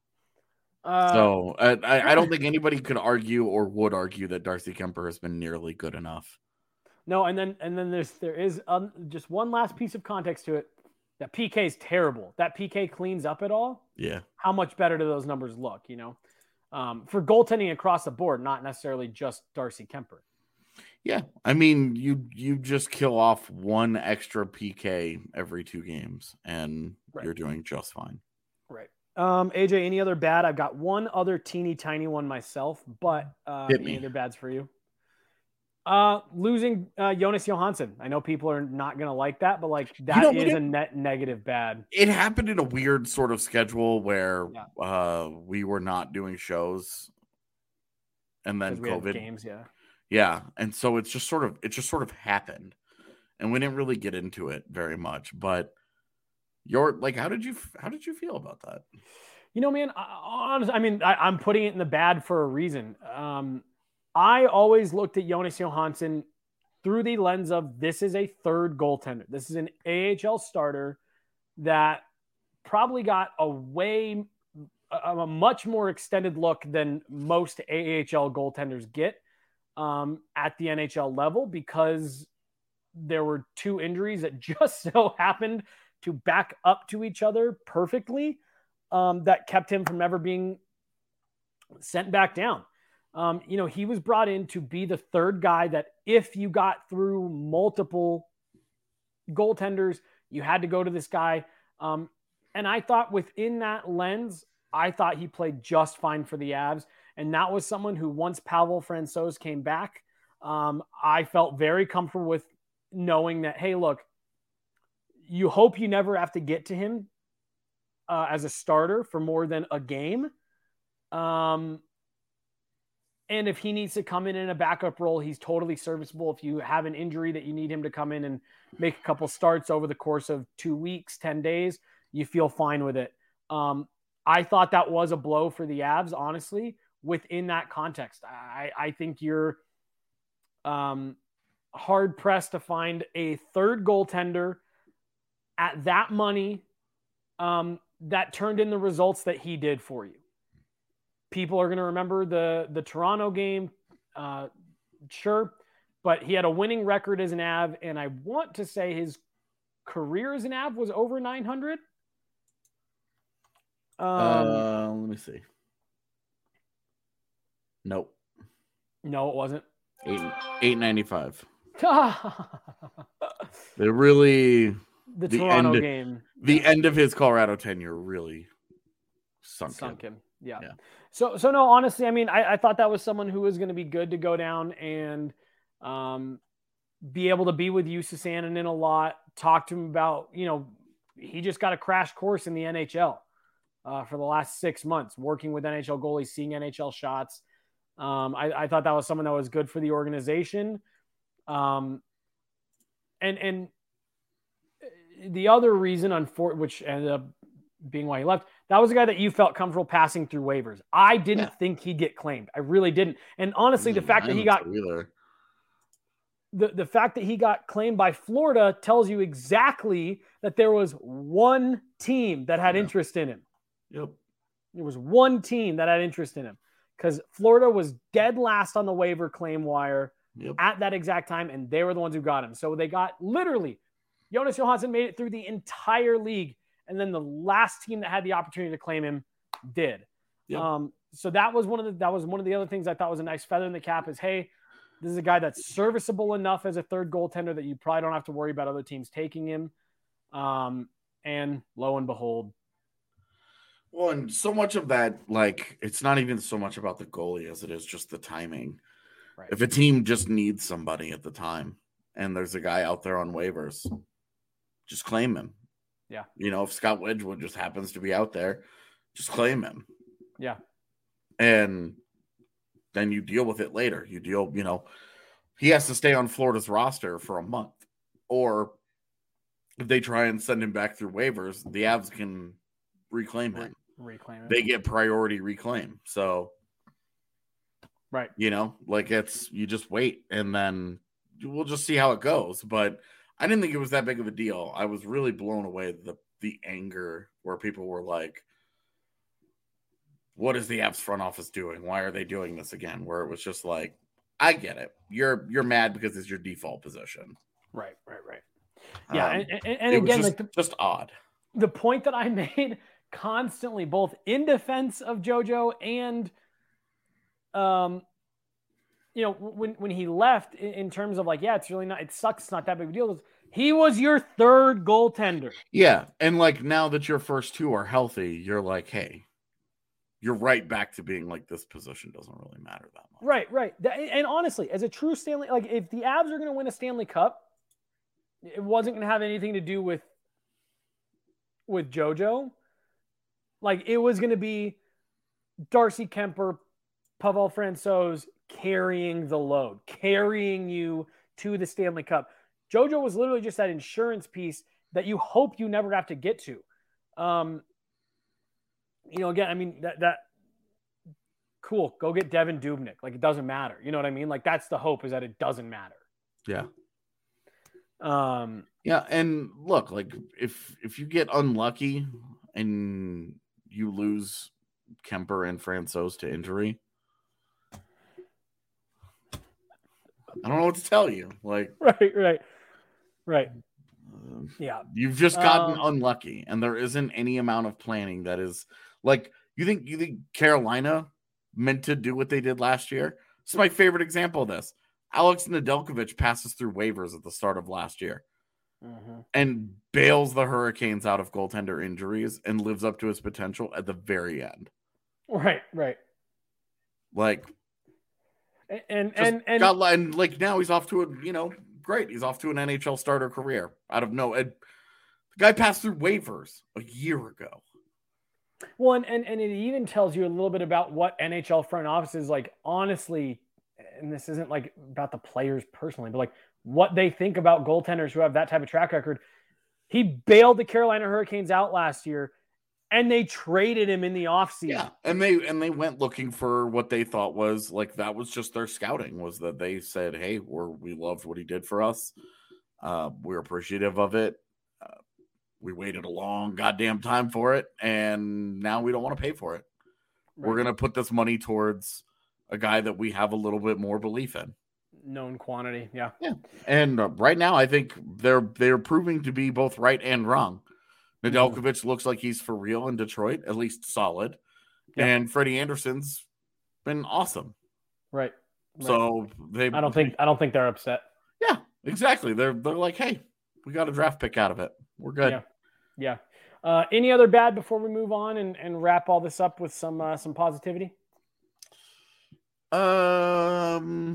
Uh, so I, I don't think anybody could argue or would argue that Darcy Kuemper has been nearly good enough. No, and then and then there's there is um, just one last piece of context to it. That P K is terrible. That P K cleans up it all. Yeah. How much better do those numbers look? You know, um, for goaltending across the board, not necessarily just Darcy Kuemper. Yeah, I mean, you you just kill off one extra P K every two games, and right. you're doing just fine. Right. Um, A J, any other bad? I've got one other teeny tiny one myself, but uh, Hit any me. other bads for you? Uh, losing uh, Jonas Johansson. I know people are not going to like that, but like that you know, is it, a net negative bad. It happened in a weird sort of schedule where yeah. uh, we were not doing shows, and then COVID games. Yeah, yeah, and so it's just sort of it just sort of happened, and we didn't really get into it very much. But you're like, how did you how did you feel about that? You know, man, honestly, I mean, I, I'm putting it in the bad for a reason. Um, I always looked at Jonas Johansson through the lens of this is a third goaltender. This is an A H L starter that probably got a way, a, a much more extended look than most A H L goaltenders get um, at the N H L level because there were two injuries that just so happened to back up to each other perfectly um, that kept him from ever being sent back down. Um, you know, he was brought in to be the third guy that if you got through multiple goaltenders, you had to go to this guy. Um, and I thought within that lens, I thought he played just fine for the Avs. And that was someone who once Pavel Francouz came back, um, I felt very comfortable with knowing that, hey, look, you hope you never have to get to him uh, as a starter for more than a game. Um, And if he needs to come in in a backup role, he's totally serviceable. If you have an injury that you need him to come in and make a couple starts over the course of two weeks, ten days, you feel fine with it. Um, I thought that was a blow for the Avs, honestly, within that context. I, I think you're um, hard-pressed to find a third goaltender at that money um, that turned in the results that he did for you. People are going to remember the, the Toronto game, uh, sure, but he had a winning record as an A V, and I want to say his career as an A V was over nine hundred. Um, uh, let me see. Nope. No, it wasn't. Eight eight ninety five. They really the, the Toronto end, game. The yeah. end of his Colorado tenure really sunk, sunk him. him. Yeah. yeah. So, so no, honestly, I mean, I, I thought that was someone who was going to be good to go down and um, be able to be with Jussi Sandinen a lot, talk to him about, you know, he just got a crash course in the N H L uh, for the last six months, working with N H L goalies, seeing N H L shots. Um, I, I thought that was someone that was good for the organization. Um, and, and the other reason, unfor- which ended up being why he left, that was a guy that you felt comfortable passing through waivers. I didn't yeah. think he'd get claimed. I really didn't. And honestly, mm, the fact I that he got the, the fact that he got claimed by Florida tells you exactly that there was one team that had yeah. interest in him. Yep. There was one team that had interest in him because Florida was dead last on the waiver claim wire yep. at that exact time, and they were the ones who got him. So they got literally Jonas Johansson made it through the entire league, and then the last team that had the opportunity to claim him did. Yep. Um, so that was one of the that was one of the other things I thought was a nice feather in the cap is, hey, this is a guy that's serviceable enough as a third goaltender that you probably don't have to worry about other teams taking him. Um, and lo and behold. Well, and so much of that, like, it's not even so much about the goalie as it is just the timing. Right. If a team just needs somebody at the time and there's a guy out there on waivers, just claim him. Yeah. You know, if Scott Wedgwood just happens to be out there, just claim him. Yeah. And then you deal with it later. You deal, you know, he has to stay on Florida's roster for a month. Or if they try and send him back through waivers, the Avs can reclaim him. Reclaim it. They get priority reclaim. So, right. You know, like it's, you just wait and then we'll just see how it goes. But I didn't think it was that big of a deal. I was really blown away the the anger where people were like, what is the Avs front office doing? Why are they doing this again? Where it was just like, I get it. You're you're mad because it's your default position. Right, right, right. Yeah, um, and, and, and it again, was just, like the, just odd. The point that I made constantly, both in defense of JoJo and, um, you know, when when he left, in, in terms of like, yeah, it's really not, it sucks, it's not that big of a deal. He was your third goaltender. Yeah, and like now that your first two are healthy, you're like, hey. You're right back to being like this position doesn't really matter that much. Right, right. And honestly, as a true Stanley, like if the Avs are going to win a Stanley Cup, it wasn't going to have anything to do with with JoJo. Like it was going to be Darcy Kemper, Pavel Francouz carrying the load, carrying you to the Stanley Cup. JoJo was literally just that insurance piece that you hope you never have to get to. Um, You know, again, I mean, that, that cool. Go get Devin Dubnyk. Like, it doesn't matter. You know what I mean? Like, that's the hope, is that it doesn't matter. Yeah. Um, yeah. And look, like, if if you get unlucky and you lose Kemper and Francouz to injury, I don't know what to tell you. Like, right, right, right. Uh, yeah. You've just gotten um, unlucky, and there isn't any amount of planning that is. Like, you think you think Carolina meant to do what they did last year? This is my favorite example of this. Alex Nedeljkovic passes through waivers at the start of last year mm-hmm. and bails the Hurricanes out of goaltender injuries and lives up to his potential at the very end. Right, right. Like, and and and, and, got, and like now he's off to a, you know, great. He's off to an N H L starter career out of no. The guy passed through waivers a year ago. Well, and, and, and it even tells you a little bit about what N H L front offices, like, honestly, and this isn't like about the players personally, but like what they think about goaltenders who have that type of track record. He bailed the Carolina Hurricanes out last year, and they traded him in the offseason. Yeah, and they and they went looking for what they thought was like that was just their scouting, was that they said, hey, we're we loved what he did for us. Uh, we're appreciative of it. Uh, we waited a long goddamn time for it, and now we don't want to pay for it. Right. We're going to put this money towards a guy that we have a little bit more belief in. Known quantity, yeah. Yeah, and uh, right now I think they're they're proving to be both right and wrong. Nedeljkovic mm-hmm. looks like he's for real in Detroit, at least solid. Yeah. And Freddie Anderson's been awesome. Right. right. So they I don't think I don't think they're upset. Yeah, exactly. They're they're like, hey, we got a draft pick out of it. We're good. Yeah. Yeah. Uh, any other bad before we move on and, and wrap all this up with some uh, some positivity? Um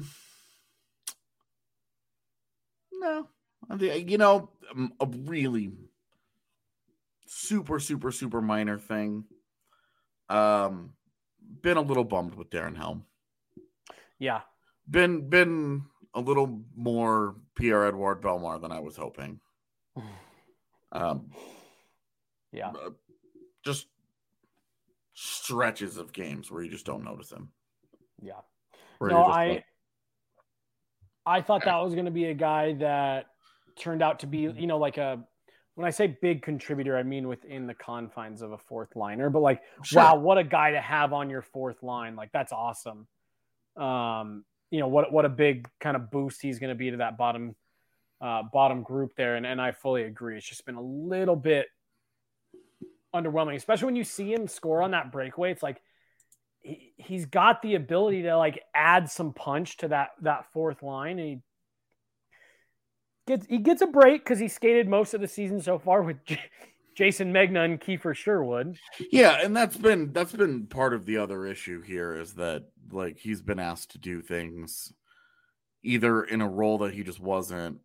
No. You know, a really super, super, super minor thing. Um, been a little bummed with Darren Helm. Yeah. Been been a little more Pierre-Edouard Bellemare than I was hoping. Um, yeah, just stretches of games where you just don't notice him. Yeah. Where No, you're just I like, I thought that was going to be a guy that turned out to be, you know, like a, when I say big contributor, I mean within the confines of a fourth liner, but like, Sure. wow, what a guy to have on your fourth line. Like, that's awesome. Um, you know, what, what a big kind of boost he's going to be to that bottom, uh, bottom group there. And, and I fully agree. It's just been a little bit underwhelming, especially when you see him score on that breakaway. It's like, he, he's got the ability to like add some punch to that, that fourth line. And he gets, he gets a break because he skated most of the season so far with J- Jason Megna and Kiefer Sherwood. Yeah. And that's been, that's been part of the other issue here is that like he's been asked to do things either in a role that he just wasn't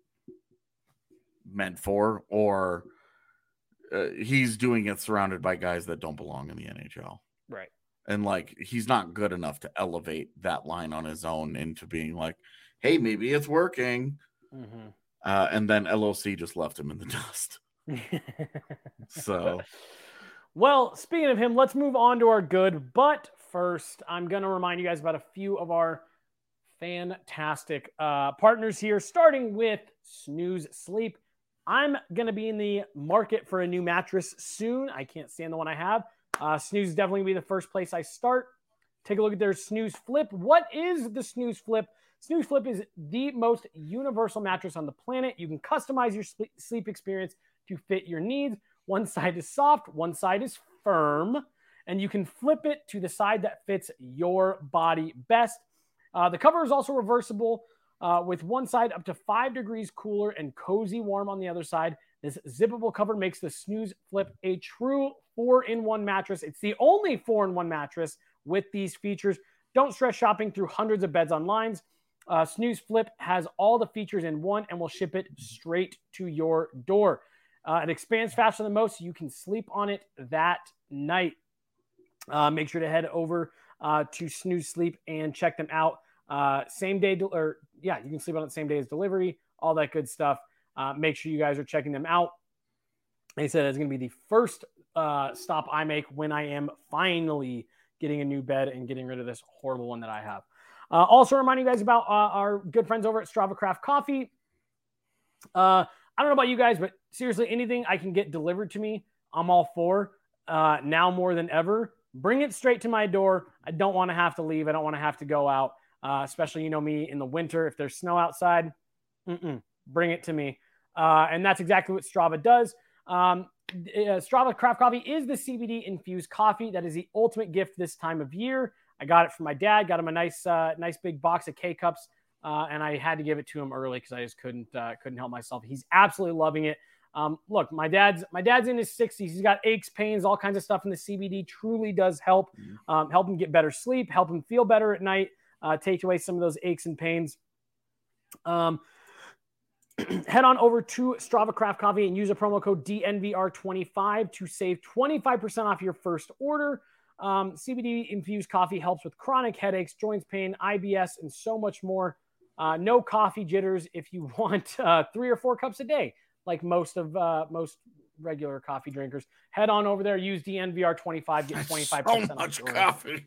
meant for, or uh, he's doing it surrounded by guys that don't belong in the N H L. Right. And like, he's not good enough to elevate that line on his own into being like, hey, maybe it's working. Mm-hmm. Uh, and then L O C just left him in the dust. So, well, speaking of him, let's move on to our good. But first, I'm going to remind you guys about a few of our fantastic uh, partners here, starting with Snooze Sleep. I'm going to be in the market for a new mattress soon. I can't stand the one I have. Uh, Snooze is definitely going to be the first place I start. Take a look at their Snooze Flip. What is the Snooze Flip? Snooze Flip is the most universal mattress on the planet. You can customize your sleep experience to fit your needs. One side is soft, one side is firm, and you can flip it to the side that fits your body best. Uh, the cover is also reversible, uh, with one side up to five degrees cooler and cozy warm on the other side. This zippable cover makes the Snooze Flip a true four-in-one mattress. It's the only four-in-one mattress with these features. Don't stress shopping through hundreds of beds online. Uh, Snooze Flip has all the features in one and will ship it straight to your door. Uh, it expands faster than most, so you can sleep on it that night. Uh, make sure to head over uh, to Snooze Sleep and check them out. Uh, same day, del- or yeah, you can sleep on it the same day as delivery, all that good stuff. Uh, make sure you guys are checking them out. They said it's going to be the first uh, stop I make when I am finally getting a new bed and getting rid of this horrible one that I have. Uh, also reminding you guys about uh, our good friends over at Strava Craft Coffee. Uh, I don't know about you guys, but seriously, anything I can get delivered to me, I'm all for. Uh, now more than ever, bring it straight to my door. I don't want to have to leave. I don't want to have to go out, uh, especially, you know, me in the winter. If there's snow outside, mm-mm, bring it to me. Uh, and that's exactly what Strava does. Um, uh, Strava Craft Coffee is the C B D infused coffee that is the ultimate gift this time of year. I got it from my dad, got him a nice, uh, nice big box of K-Cups, uh, and I had to give it to him early because I just couldn't, uh, couldn't help myself. He's absolutely loving it. Um, look, my dad's, my dad's in his sixties. He's got aches, pains, all kinds of stuff, and the C B D truly does help, um, help him get better sleep, help him feel better at night, uh, take away some of those aches and pains. Um, head on over to Strava Craft Coffee and use a promo code D N V R twenty-five to save twenty-five percent off your first order. Um, C B D infused coffee helps with chronic headaches, joints pain, I B S, and so much more. Uh, no coffee jitters if you want uh, three or four cups a day, like most of uh, most regular coffee drinkers. Head on over there, use D N V R twenty-five, get twenty-five percent so off. much your coffee.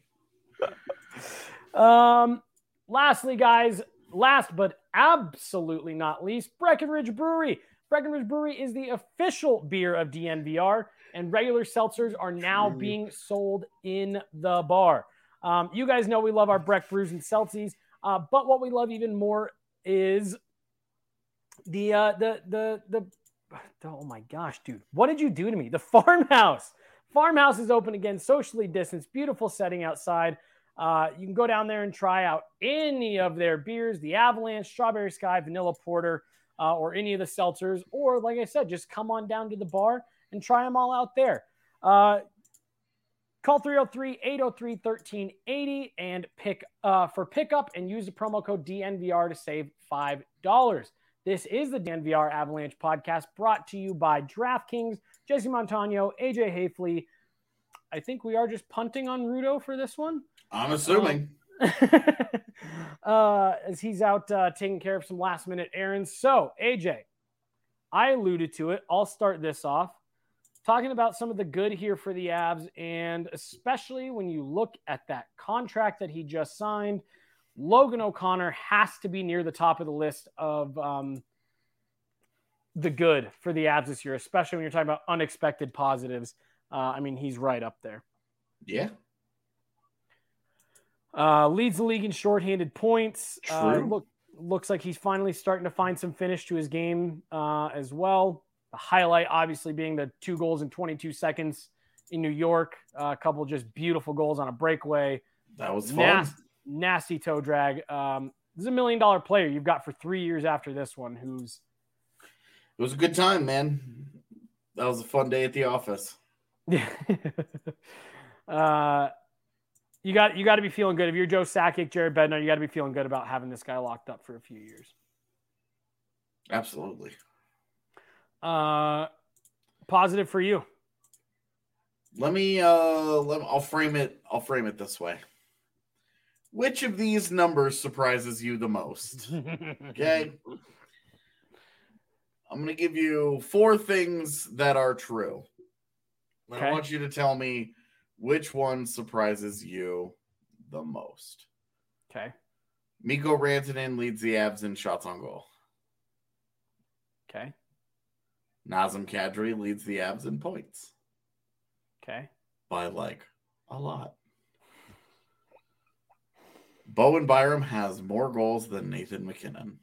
Um, lastly, guys, last but absolutely not least, Breckenridge Brewery. Breckenridge Brewery is the official beer of D N V R, and regular seltzers are now True. being sold in the bar. Um, you guys know we love our Breck brews and seltzies, uh, but what we love even more is the uh, the the the. Oh my gosh, dude! What did you do to me? The Farmhouse. Farmhouse is open again, socially distanced, beautiful setting outside. Uh, you can go down there and try out any of their beers, the Avalanche, Strawberry Sky, Vanilla Porter, uh, or any of the seltzers. Or, like I said, just come on down to the bar and try them all out there. Uh, call three oh three, eight oh three, one three eight oh and pick uh, for pickup and use the promo code D N V R to save five dollars. This is the D N V R Avalanche podcast brought to you by DraftKings, Jesse Montano, A J Hafley. I think we are just punting on Rudo for this one. I'm assuming. uh, as he's out uh, taking care of some last minute errands. So, A J, I alluded to it. I'll start this off talking about some of the good here for the Avs, and especially when you look at that contract that he just signed, Logan O'Connor has to be near the top of the list of um, the good for the Avs this year, especially when you're talking about unexpected positives. Uh, I mean, he's right up there. Yeah. Uh, leads the league in shorthanded points. True. Uh, look, looks like he's finally starting to find some finish to his game uh, as well. The highlight, obviously, being the two goals in twenty-two seconds in New York. Uh, a couple just beautiful goals on a breakaway. That was fun. Nasty, nasty toe drag. Um, this is a million dollar player you've got for three years after this one. Who's It was a good time, man. That was a fun day at the office. Yeah. uh, you got you got to be feeling good. If you're Joe Sakic, Jared Bednar, you got to be feeling good about having this guy locked up for a few years. Absolutely. Uh, positive for you. Let me uh let me, I'll frame it I'll frame it this way. Which of these numbers surprises you the most? Okay. I'm going to give you four things that are true. Okay. I want you to tell me which one surprises you the most. Okay. Mikko Rantanen leads the Avs in shots on goal. Okay. Nazem Kadri leads the Avs in points. Okay. By like a lot. Bowen Byram has more goals than Nathan MacKinnon.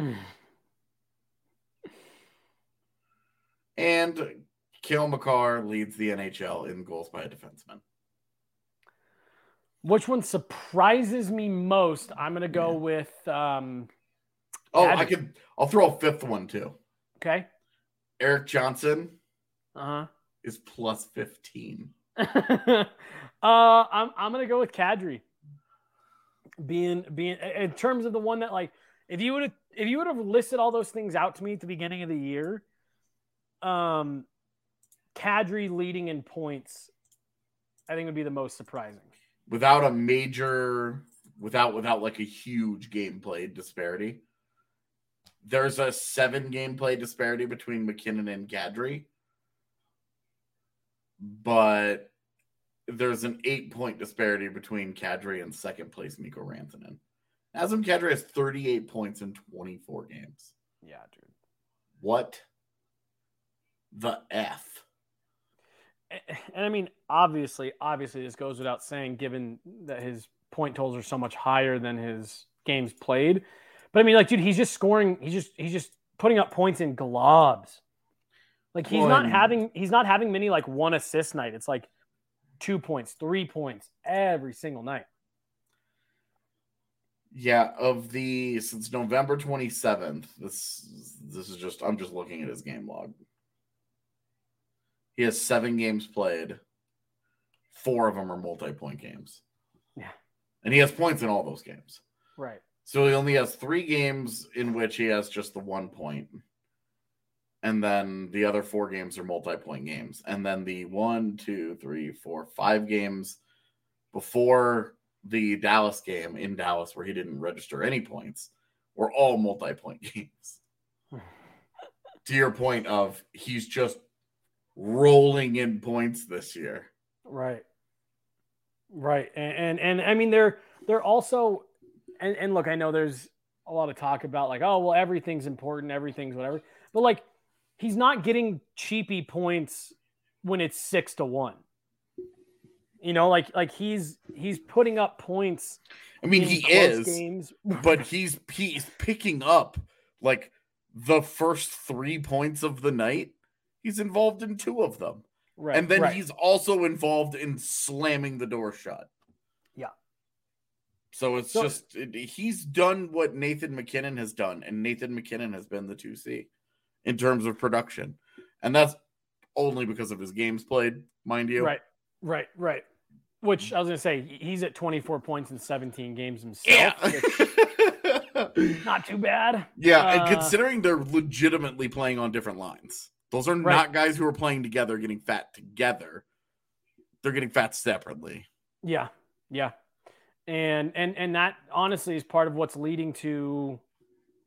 And Cale Makar leads the N H L in goals by a defenseman. Which one surprises me most? I'm going to go yeah. with. Um, oh, Ad- I could. I'll throw a fifth one too. Okay. Eric Johnson. Uh huh. Is plus fifteen. uh, I'm I'm going to go with Kadri. Being being in terms of the one that, like, if you would have if you would have listed all those things out to me at the beginning of the year, um, Kadri leading in points, I think would be the most surprising. Without a major, without without like a huge gameplay disparity. There's a seven gameplay disparity between MacKinnon and Kadri, but there's an eight point disparity between Kadri and second place Mikko Rantanen. Nazem Kadri has thirty-eight points in twenty-four games. Yeah, dude. What the F? And I mean, obviously, obviously, this goes without saying, given that his point totals are so much higher than his games played. But I mean, like, dude, he's just scoring. He's just he's just putting up points in globs. Like he's well, not and... having he's not having many like one assist night. It's like two points, three points every single night. Yeah, of the since November twenty-seventh. This this is just I'm just looking at his game log. He has seven games played. Four of them are multi-point games. Yeah. And he has points in all those games. Right. So he only has three games in which he has just the one point. And then the other four games are multi-point games. And then the one, two, three, four, five games before the Dallas game in Dallas where he didn't register any points were all multi-point games. To your point of he's just rolling in points this year. Right. Right. And, and, and I mean, they're, they're also, and, and look, I know there's a lot of talk about like, oh, well, everything's important. Everything's whatever. But like, he's not getting cheapy points when it's six to one. You know, like, like he's, he's putting up points. I mean, he is, games. But he's, he's picking up like the first three points of the night. He's involved in two of them. Right. And then right. he's also involved in slamming the door shut. Yeah. So it's so, just, it, he's done what Nathan MacKinnon has done. And Nathan MacKinnon has been the two C in terms of production. And that's only because of his games played, mind you. Right. Right. Right. Which I was going to say, he's at twenty-four points in seventeen games himself. Yeah. Not too bad. Yeah. Uh, and considering they're legitimately playing on different lines. Those are right. not guys who are playing together, getting fat together. They're getting fat separately. Yeah. Yeah. And, and, and that honestly is part of what's leading to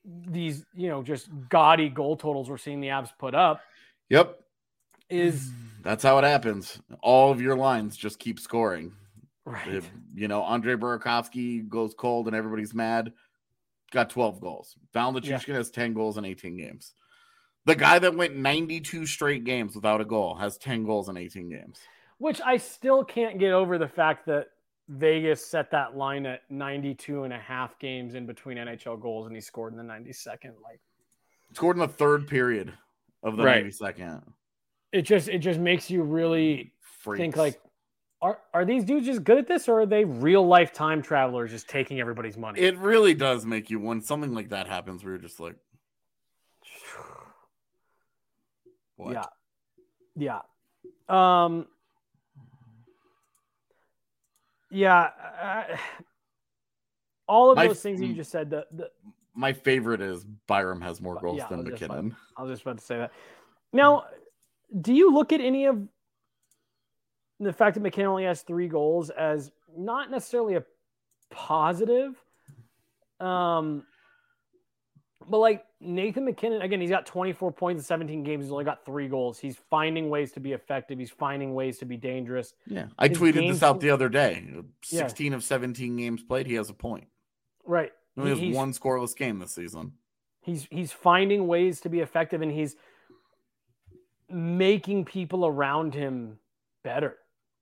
these, you know, just gaudy goal totals we're seeing the Avs put up. Yep. Is that's how it happens. All of your lines just keep scoring. right. If, you know, Andre Burakovsky goes cold and everybody's mad. Got twelve goals. Val Nichushkin yeah. has ten goals in eighteen games. The guy that went ninety-two straight games without a goal has ten goals in eighteen games. Which I still can't get over the fact that Vegas set that line at ninety-two and a half games in between N H L goals, and he scored in the ninety-second. Like, scored in the third period of the right. ninety-second. It just it just makes you really Freaks. think, like, are are these dudes just good at this, or are they real life time travelers just taking everybody's money? It really does make you, when something like that happens, where you're just like, what? Yeah, yeah, um, yeah. Uh, all of my, those things that you just said. The, the my favorite is Byram has more goals yeah, than I McKinnon. About, I was just about to say that. Now, do you look at any of the fact that McKinnon only has three goals as not necessarily a positive? Um, but like Nathan McKinnon, again, he's got twenty-four points in seventeen games. He's only got three goals. He's finding ways to be effective. He's finding ways to be dangerous. Yeah. I His tweeted this out the other day. sixteen yeah. of seventeen games played. He has a point. Right. He only has one scoreless game this season. He's, he's finding ways to be effective, and he's making people around him better.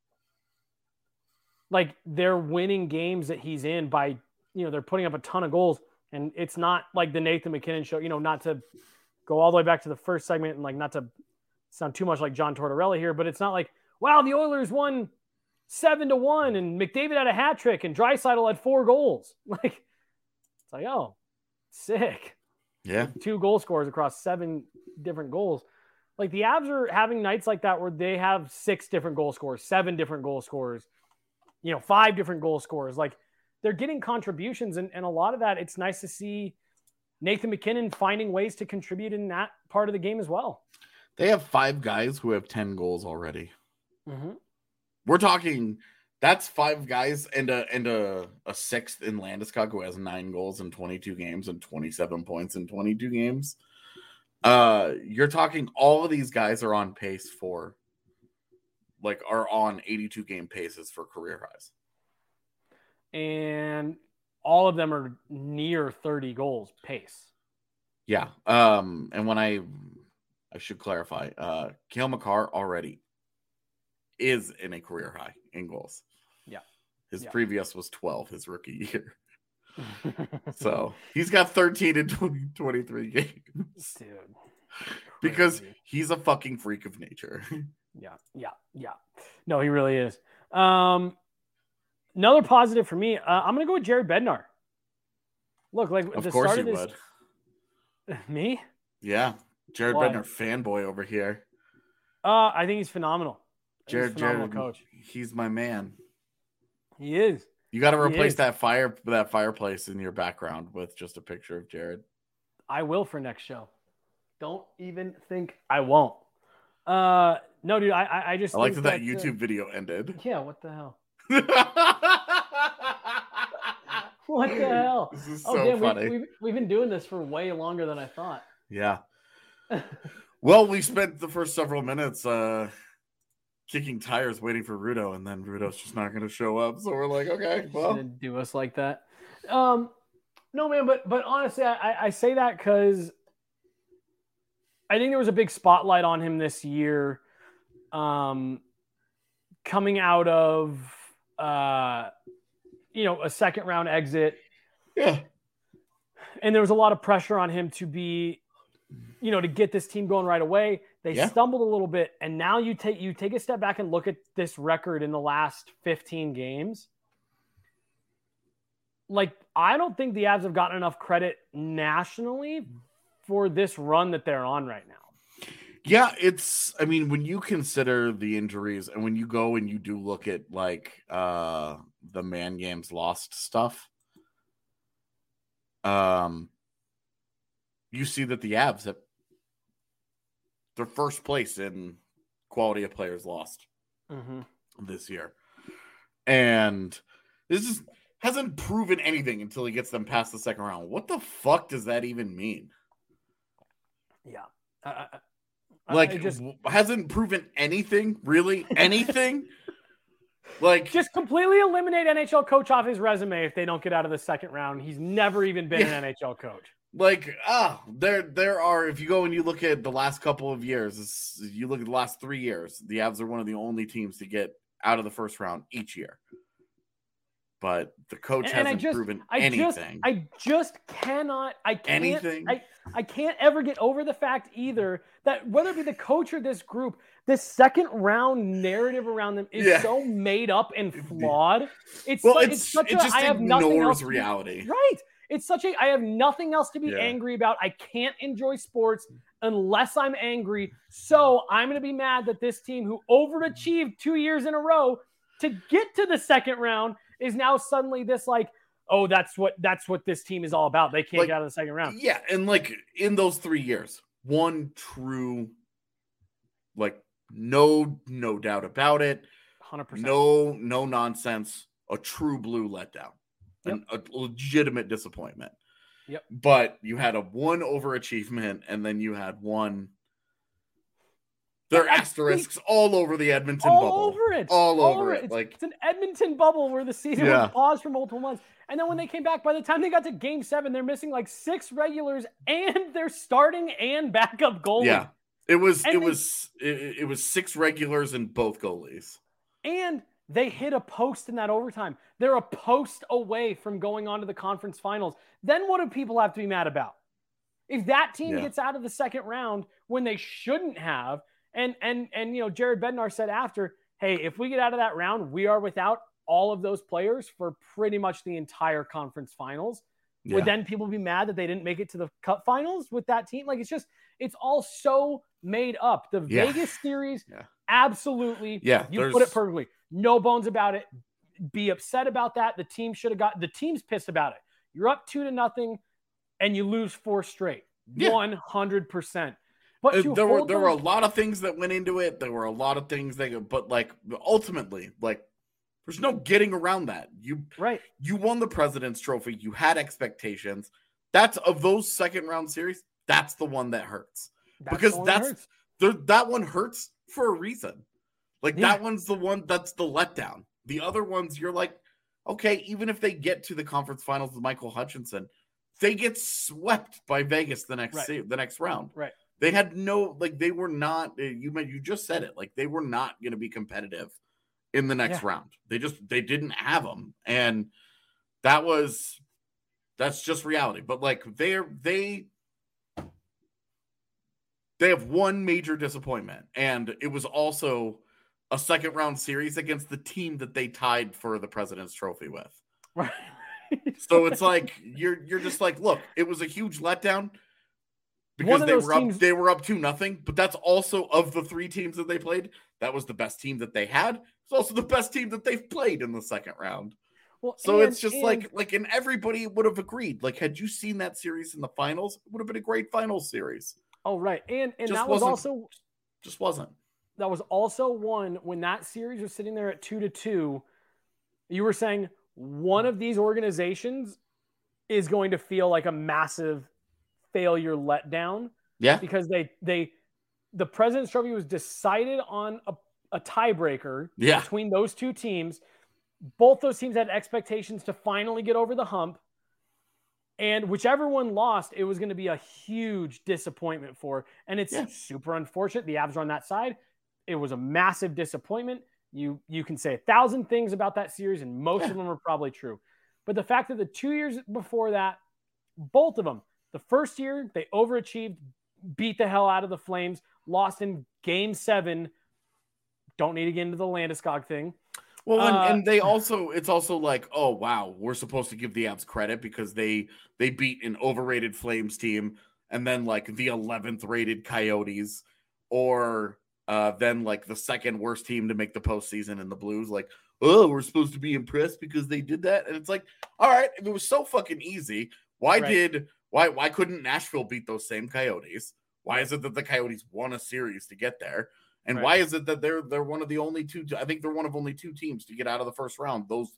Like, they're winning games that he's in by, you know, they're putting up a ton of goals. And it's not like the Nathan McKinnon show, you know, not to go all the way back to the first segment and like not to sound too much like John Tortorella here, but it's not like, wow, the Oilers won seven to one and McDavid had a hat trick and Draisaitl had four goals. Like, it's like, oh, sick. Yeah. Like two goal scorers across seven different goals. Like, the Avs are having nights like that where they have six different goal scorers, seven different goal scorers, you know, five different goal scorers. Like, they're getting contributions, and, and a lot of that, it's nice to see Nathan McKinnon finding ways to contribute in that part of the game as well. They have five guys who have ten goals already. Mm-hmm. We're talking, that's five guys and a and a, a sixth in Landeskog who has nine goals in twenty-two games and twenty-seven points in twenty-two games. Uh, you're talking all of these guys are on pace for, like, are on eighty-two game paces for career highs. And all of them are near thirty goals pace. Yeah. Um, and when I, I should clarify, uh, Cale Makar already is in a career high in goals. Yeah. His yeah. previous was twelve his rookie year. So he's got thirteen in twenty, twenty-three games. Dude. Because crazy. He's a fucking freak of nature. Yeah. Yeah. Yeah. No, he really is. Um, Another positive for me, uh, I'm going to go with Jared Bednar. Look, like of the course start you of this, would. Me? Yeah, Jared Why? Bednar fanboy over here. Uh, I think he's phenomenal. Jared, he's phenomenal Jared, coach. He's my man. He is. You got to replace that fire, that fireplace in your background with just a picture of Jared. I will for next show. Don't even think I won't. Uh, no, dude, I, I, I just I like think that, that that YouTube uh, video ended. Yeah, what the hell? What the hell? This is oh, so damn, funny. We, we've, we've been doing this for way longer than I thought. Yeah. Well, we spent the first several minutes uh, kicking tires waiting for Rudo, and then Rudo's just not going to show up. So we're like, okay, well. Gonna do us like that. Um, no, man, but but honestly, I, I say that because I think there was a big spotlight on him this year, um, coming out of uh, you know, a second round exit. Yeah. And there was a lot of pressure on him to be, you know, to get this team going right away. They yeah. stumbled a little bit, and now you take you take a step back and look at this record in the last fifteen games. Like, I don't think the Avs have gotten enough credit nationally for this run that they're on right now. Yeah, it's, I mean, when you consider the injuries and when you go and you do look at, like, uh, the man games lost stuff, um, you see that the Avs have their first place in quality of players lost mm-hmm. this year. And this is, hasn't proven anything until he gets them past the second round. What the fuck does that even mean? Yeah. Uh, like, just hasn't proven anything, really? Anything? Like, just completely eliminate N H L coach off his resume if they don't get out of the second round. He's never even been yeah. an N H L coach. Like, ah, there, there are, if you go and you look at the last couple of years, you look at the last three years, the Avs are one of the only teams to get out of the first round each year. But the coach and, and hasn't just, proven I anything. Just, I just cannot, I can't, anything. I, I can't ever get over the fact either that whether it be the coach or this group, this second round narrative around them is yeah. so made up and flawed. It's, well, like, it's, it's such it a, just I have nothing else to reality. Be, right. It's such a, I have nothing else to be yeah. angry about. I can't enjoy sports unless I'm angry. So I'm going to be mad that this team who overachieved two years in a row to get to the second round is now suddenly this like, oh, that's what that's what this team is all about. They can't like, get out of the second round. Yeah, and like in those three years, one true, like no no doubt about it, one hundred percent. No no nonsense, a true blue letdown, yep. an, a legitimate disappointment. Yep. But you had a one overachievement, and then you had one. There are asterisks all over the Edmonton all bubble. All over it. All, all over, over it. It's, like it's an Edmonton bubble where the season yeah. was paused for multiple months. And then when they came back, by the time they got to game seven, they're missing like six regulars and they're starting and backup goalies. Yeah. It was and it they, was it, it was six regulars and both goalies. And they hit a post in that overtime. They're a post away from going on to the conference finals. Then what do people have to be mad about? If that team yeah. gets out of the second round when they shouldn't have, And and and you know, Jared Bednar said after, hey, if we get out of that round, we are without all of those players for pretty much the entire conference finals. Yeah. Would then people be mad that they didn't make it to the cup finals with that team? Like, it's just, it's all so made up. The yeah. Vegas series, yeah. absolutely. Yeah, you put it perfectly. No bones about it. Be upset about that. The team should have got, the team's pissed about it. You're up two to nothing and you lose four straight. Yeah. one hundred percent. But uh, there were there those... were a lot of things that went into it. There were a lot of things that, but like ultimately, like there's no getting around that. You right. You won the President's Trophy. You had expectations. That's of those second round series. That's the one that hurts that's because the that's that, hurts. The, that one hurts for a reason. Like yeah. that one's the one that's the letdown. The other ones, you're like, okay, even if they get to the conference finals with Michael Hutchinson, they get swept by Vegas the next right. se- the next round. Right. They had no, like, they were not, you meant, you just said it, like, they were not going to be competitive in the next yeah. round. They just, they didn't have them. And that was, that's just reality. But, like, they're, they, they have one major disappointment. And it was also a second round series against the team that they tied for the President's Trophy with. Right. So it's like, you're, you're just like, look, it was a huge letdown. Because they were teams... up, they were up two nothing, but that's also of the three teams that they played. That was the best team that they had. It's also the best team that they've played in the second round. Well, so and, it's just and... like, like, and everybody would have agreed. Like, had you seen that series in the finals, it would have been a great finals series. Oh, right, and and just that was also just wasn't. That was also one when that series was sitting there at two to two. You were saying one of these organizations is going to feel like a massive failure letdown. Yeah. Because they they the President's Trophy was decided on a, a tiebreaker yeah. between those two teams. Both those teams had expectations to finally get over the hump. And whichever one lost, it was going to be a huge disappointment for. And it's yeah. super unfortunate. The Avs are on that side. It was a massive disappointment. You you can say a thousand things about that series, and most yeah. of them are probably true. But the fact that the two years before that, both of them, the first year, they overachieved, beat the hell out of the Flames, lost in game seven. Don't need to get into the Landeskog thing. Well, and, uh, and they also, it's also like, oh, wow, we're supposed to give the Avs credit because they they beat an overrated Flames team and then like the eleventh rated Coyotes or uh, then like the second worst team to make the postseason in the Blues. Like, oh, we're supposed to be impressed because they did that. And it's like, all right, if it was so fucking easy, why right. did... Why why couldn't Nashville beat those same Coyotes? Why is it that the Coyotes won a series to get there? And right. why is it that they're they're one of the only two? I think they're one of only two teams to get out of the first round. Those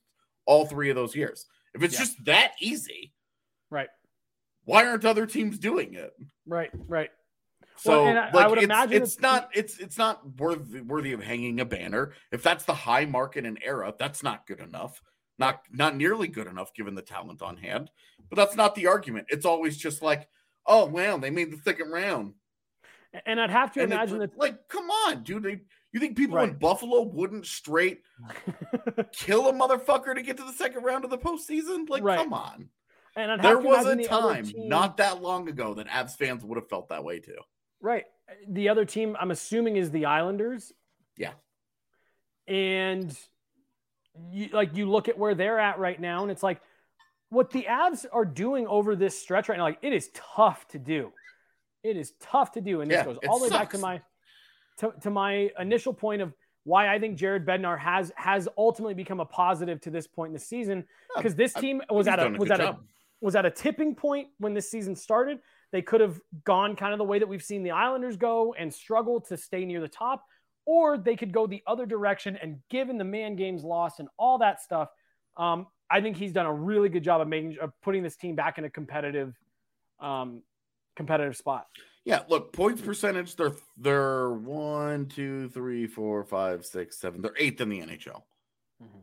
all three of those years. If it's Yeah. just that easy, Right. why aren't other teams doing it? Right. Right. So Well, and I- like I would it's, imagine it's it's- not it's it's not worthy worthy of hanging a banner. If that's the high mark in an era, that's not good enough. Not not nearly good enough given the talent on hand. But that's not the argument. It's always just like, oh wow, they made the second round. And I'd have to And imagine it, that. like, come on, dude. They, you think people in Right. Buffalo wouldn't straight kill a motherfucker to get to the second round of the postseason? Like, Right. come on. And I'd have There to was a imagine the other time team- not that long ago that Avs fans would have felt that way too. Right. The other team, I'm assuming, is the Islanders. Yeah. And you, like you look at where they're at right now, and it's like what the Avs are doing over this stretch right now. Like it is tough to do. It is tough to do, and this Yeah, goes it all the way back to sucks. my to, to my initial point of why I think Jared Bednar has has ultimately become a positive to this point in the season, because this I- team was He's at a done was good at a job. was at a tipping point when this season started. They could have gone kind of the way that we've seen the Islanders go and struggle to stay near the top, or they could go the other direction. And given the man games lost and all that stuff, um, I think he's done a really good job of making of putting this team back in a competitive, um, competitive spot. Yeah, look, points percentage, they're they're one, two, three, four, five, six, seven. They're eighth in the N H L. Mhm.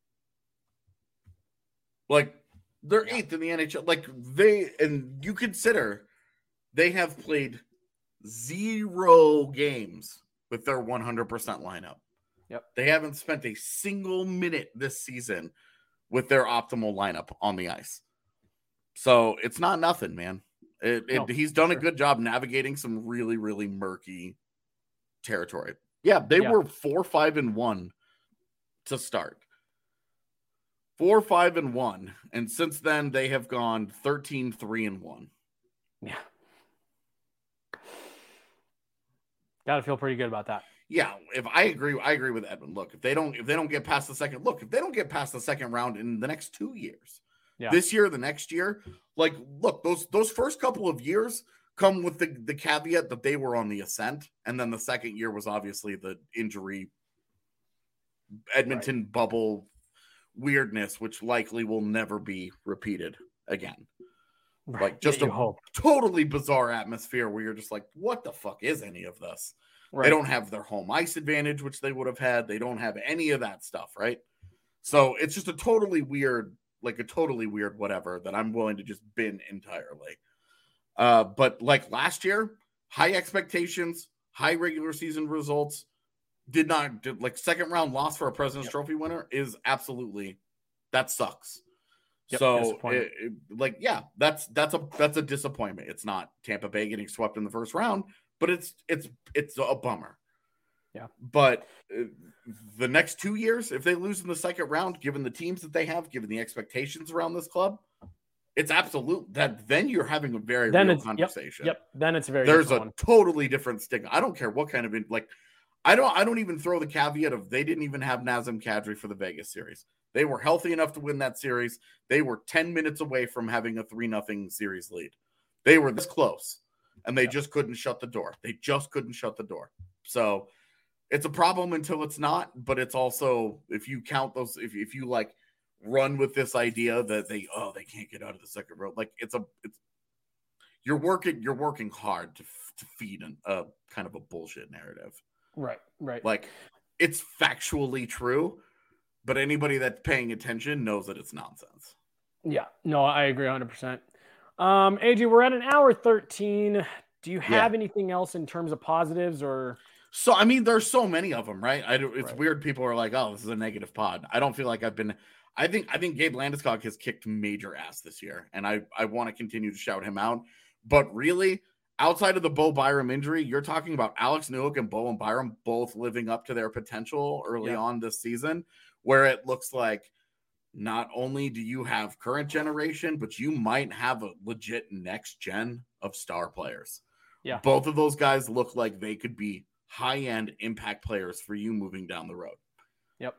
Like they're Yeah. eighth in the N H L. Like they and you consider they have played zero games with their one hundred percent lineup. Yep. They haven't spent a single minute this season with their optimal lineup on the ice. So it's not nothing, man. It, it, No, he's done sure. a good job navigating some really, really murky territory. Yeah, they Yeah. were four, five, and one to start. Four, five, and one. And since then, they have gone thirteen, three, and one. Yeah. Got to feel pretty good about that. Yeah, if I agree, I agree with Edwin. Look, if they don't, if they don't get past the second, look, if they don't get past the second round in the next two years, Yeah. this year, the next year, like, look, those those first couple of years come with the the caveat that they were on the ascent, and then the second year was obviously the injury, Edmonton bubble weirdness, which likely will never be repeated again. Right. Like, just Yeah, a you hope. totally bizarre atmosphere where you're just like, what the fuck is any of this? Right. They don't have their home ice advantage, which they would have had. They don't have any of that stuff, right? So it's just a totally weird, like a totally weird whatever that I'm willing to just bin entirely. Uh, but like last year, high expectations, high regular season results, did not did, like second round loss for a President's Yep. Trophy winner is absolutely that sucks. Yep, so disappointing. it, it- like yeah, that's that's a that's a disappointment. It's not Tampa Bay getting swept in the first round, but it's it's it's a bummer. Yeah. But uh, the next two years, if they lose in the second round, given the teams that they have, given the expectations around this club, it's absolute that then you're having a very Then real it's conversation. Yep. Then it's a very There's a different one. totally different stigma. I don't care what kind of like. I don't. I don't even throw the caveat of they didn't even have Nazem Kadri for the Vegas series. They were healthy enough to win that series. They were ten minutes away from having a three nothing series lead. They were this close, and they Yeah. just couldn't shut the door. They just couldn't shut the door. So it's a problem until it's not. But it's also, if you count those, if if you like run with this idea that they oh they can't get out of the second row, like it's a it's you're working you're working hard to to feed an, a kind of a bullshit narrative. Right. Right. Like it's factually true, but anybody that's paying attention knows that it's nonsense. Yeah, no, I agree one hundred percent. Um, A J, we're at an hour thirteen. Do you have anything else in terms of positives or? So, I mean, there's so many of them, right? I do, it's Right. weird. People are like, oh, this is a negative pod. I don't feel like I've been, I think, I think Gabe Landeskog has kicked major ass this year, and I, I want to continue to shout him out. But really, outside of the Bo Byram injury, you're talking about Alex Newhook and Bo and Byram both living up to their potential early Yeah. on this season, where it looks like not only do you have current generation, but you might have a legit next gen of star players. Yeah. Both of those guys look like they could be high-end impact players for you moving down the road. Yep.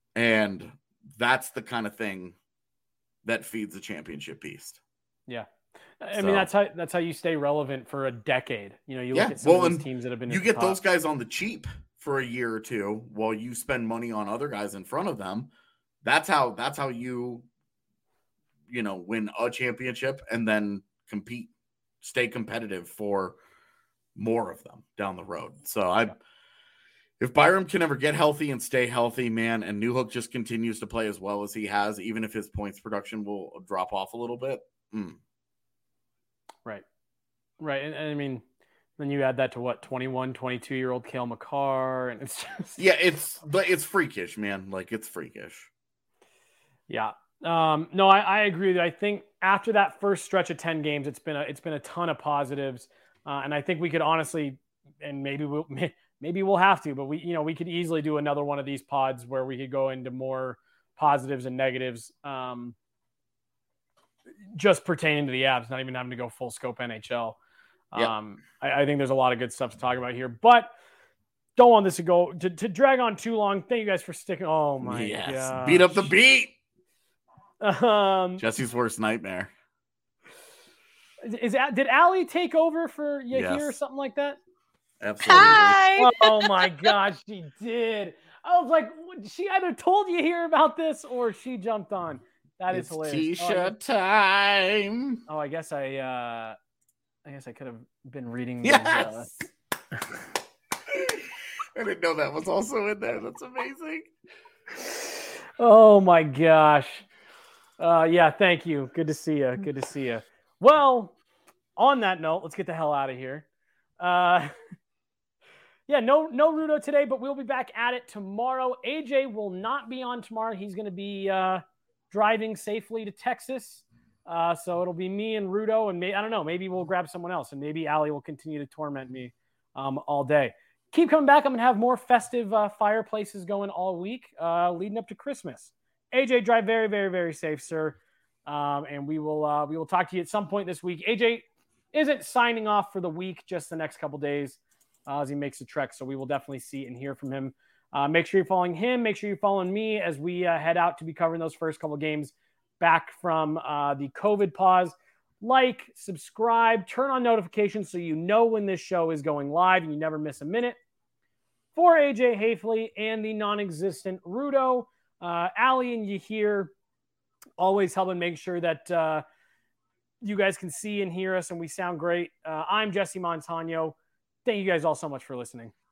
And that's the kind of thing that feeds a championship beast. Yeah. I So- mean, that's how that's how you stay relevant for a decade. You know, you Yeah, look at some well, of these and teams that have been. You at get the top. those guys on the cheap for a year or two while you spend money on other guys in front of them. That's how that's how you you know win a championship and then compete, stay competitive for more of them down the road. So I if Byram can ever get healthy and stay healthy, man, and Newhook just continues to play as well as he has, even if his points production will drop off a little bit. Mm. Right. Right. And, and I mean, then you add that to what, twenty-one, twenty-two year old Cale Makar. And it's just, yeah, it's, but it's freakish, man. Like it's freakish. Yeah. Um, no, I, I agree with you. I think after that first stretch of ten games, it's been a, it's been a ton of positives. Uh, and I think we could honestly, and maybe we'll, maybe we'll have to, but we, you know, we could easily do another one of these pods where we could go into more positives and negatives, um, just pertaining to the Avs, not even having to go full scope N H L. Yep. Um, I, I think there's a lot of good stuff to talk about here, but don't want this to go to, to drag on too long. Thank you guys for sticking. Oh my yes. God. Beat up the beat. Um, Jesse's worst nightmare. Is that, did Allie take over for Yahir Yes. or something like that? Absolutely. Hi. Oh my gosh, she did. I was like, she either told you here about this or she jumped on. That is It's hilarious. T-shirt oh, I, time. oh, I guess I, uh, I guess I could have been reading. Yes. Those, uh... I didn't know that was also in there. That's amazing. Oh my gosh. Uh, yeah, thank you. Good to see you. Good to see you. Well, on that note, let's get the hell out of here. Uh, yeah, no, no Rudo today, but we'll be back at it tomorrow. A J will not be on tomorrow. He's going to be uh, driving safely to Texas. Uh, so it'll be me and Rudo, and may, I don't know, maybe we'll grab someone else, and maybe Allie will continue to torment me um, all day. Keep coming back. I'm going to have more festive uh, fireplaces going all week, uh, leading up to Christmas. A J, drive very, very, very safe, sir. Um, and we will uh, we will talk to you at some point this week. A J isn't signing off for the week, just the next couple days uh, as he makes the trek. So we will definitely see and hear from him. Uh, make sure you're following him. Make sure you're following me as we uh, head out to be covering those first couple games back from uh, the COVID pause. Like, subscribe, turn on notifications so you know when this show is going live and you never miss a minute. For A J Hafley and the non-existent Rudo, uh, Allie and Yahir, always helping make sure that uh, you guys can see and hear us and we sound great. Uh, I'm Jesse Montano. Thank you guys all so much for listening.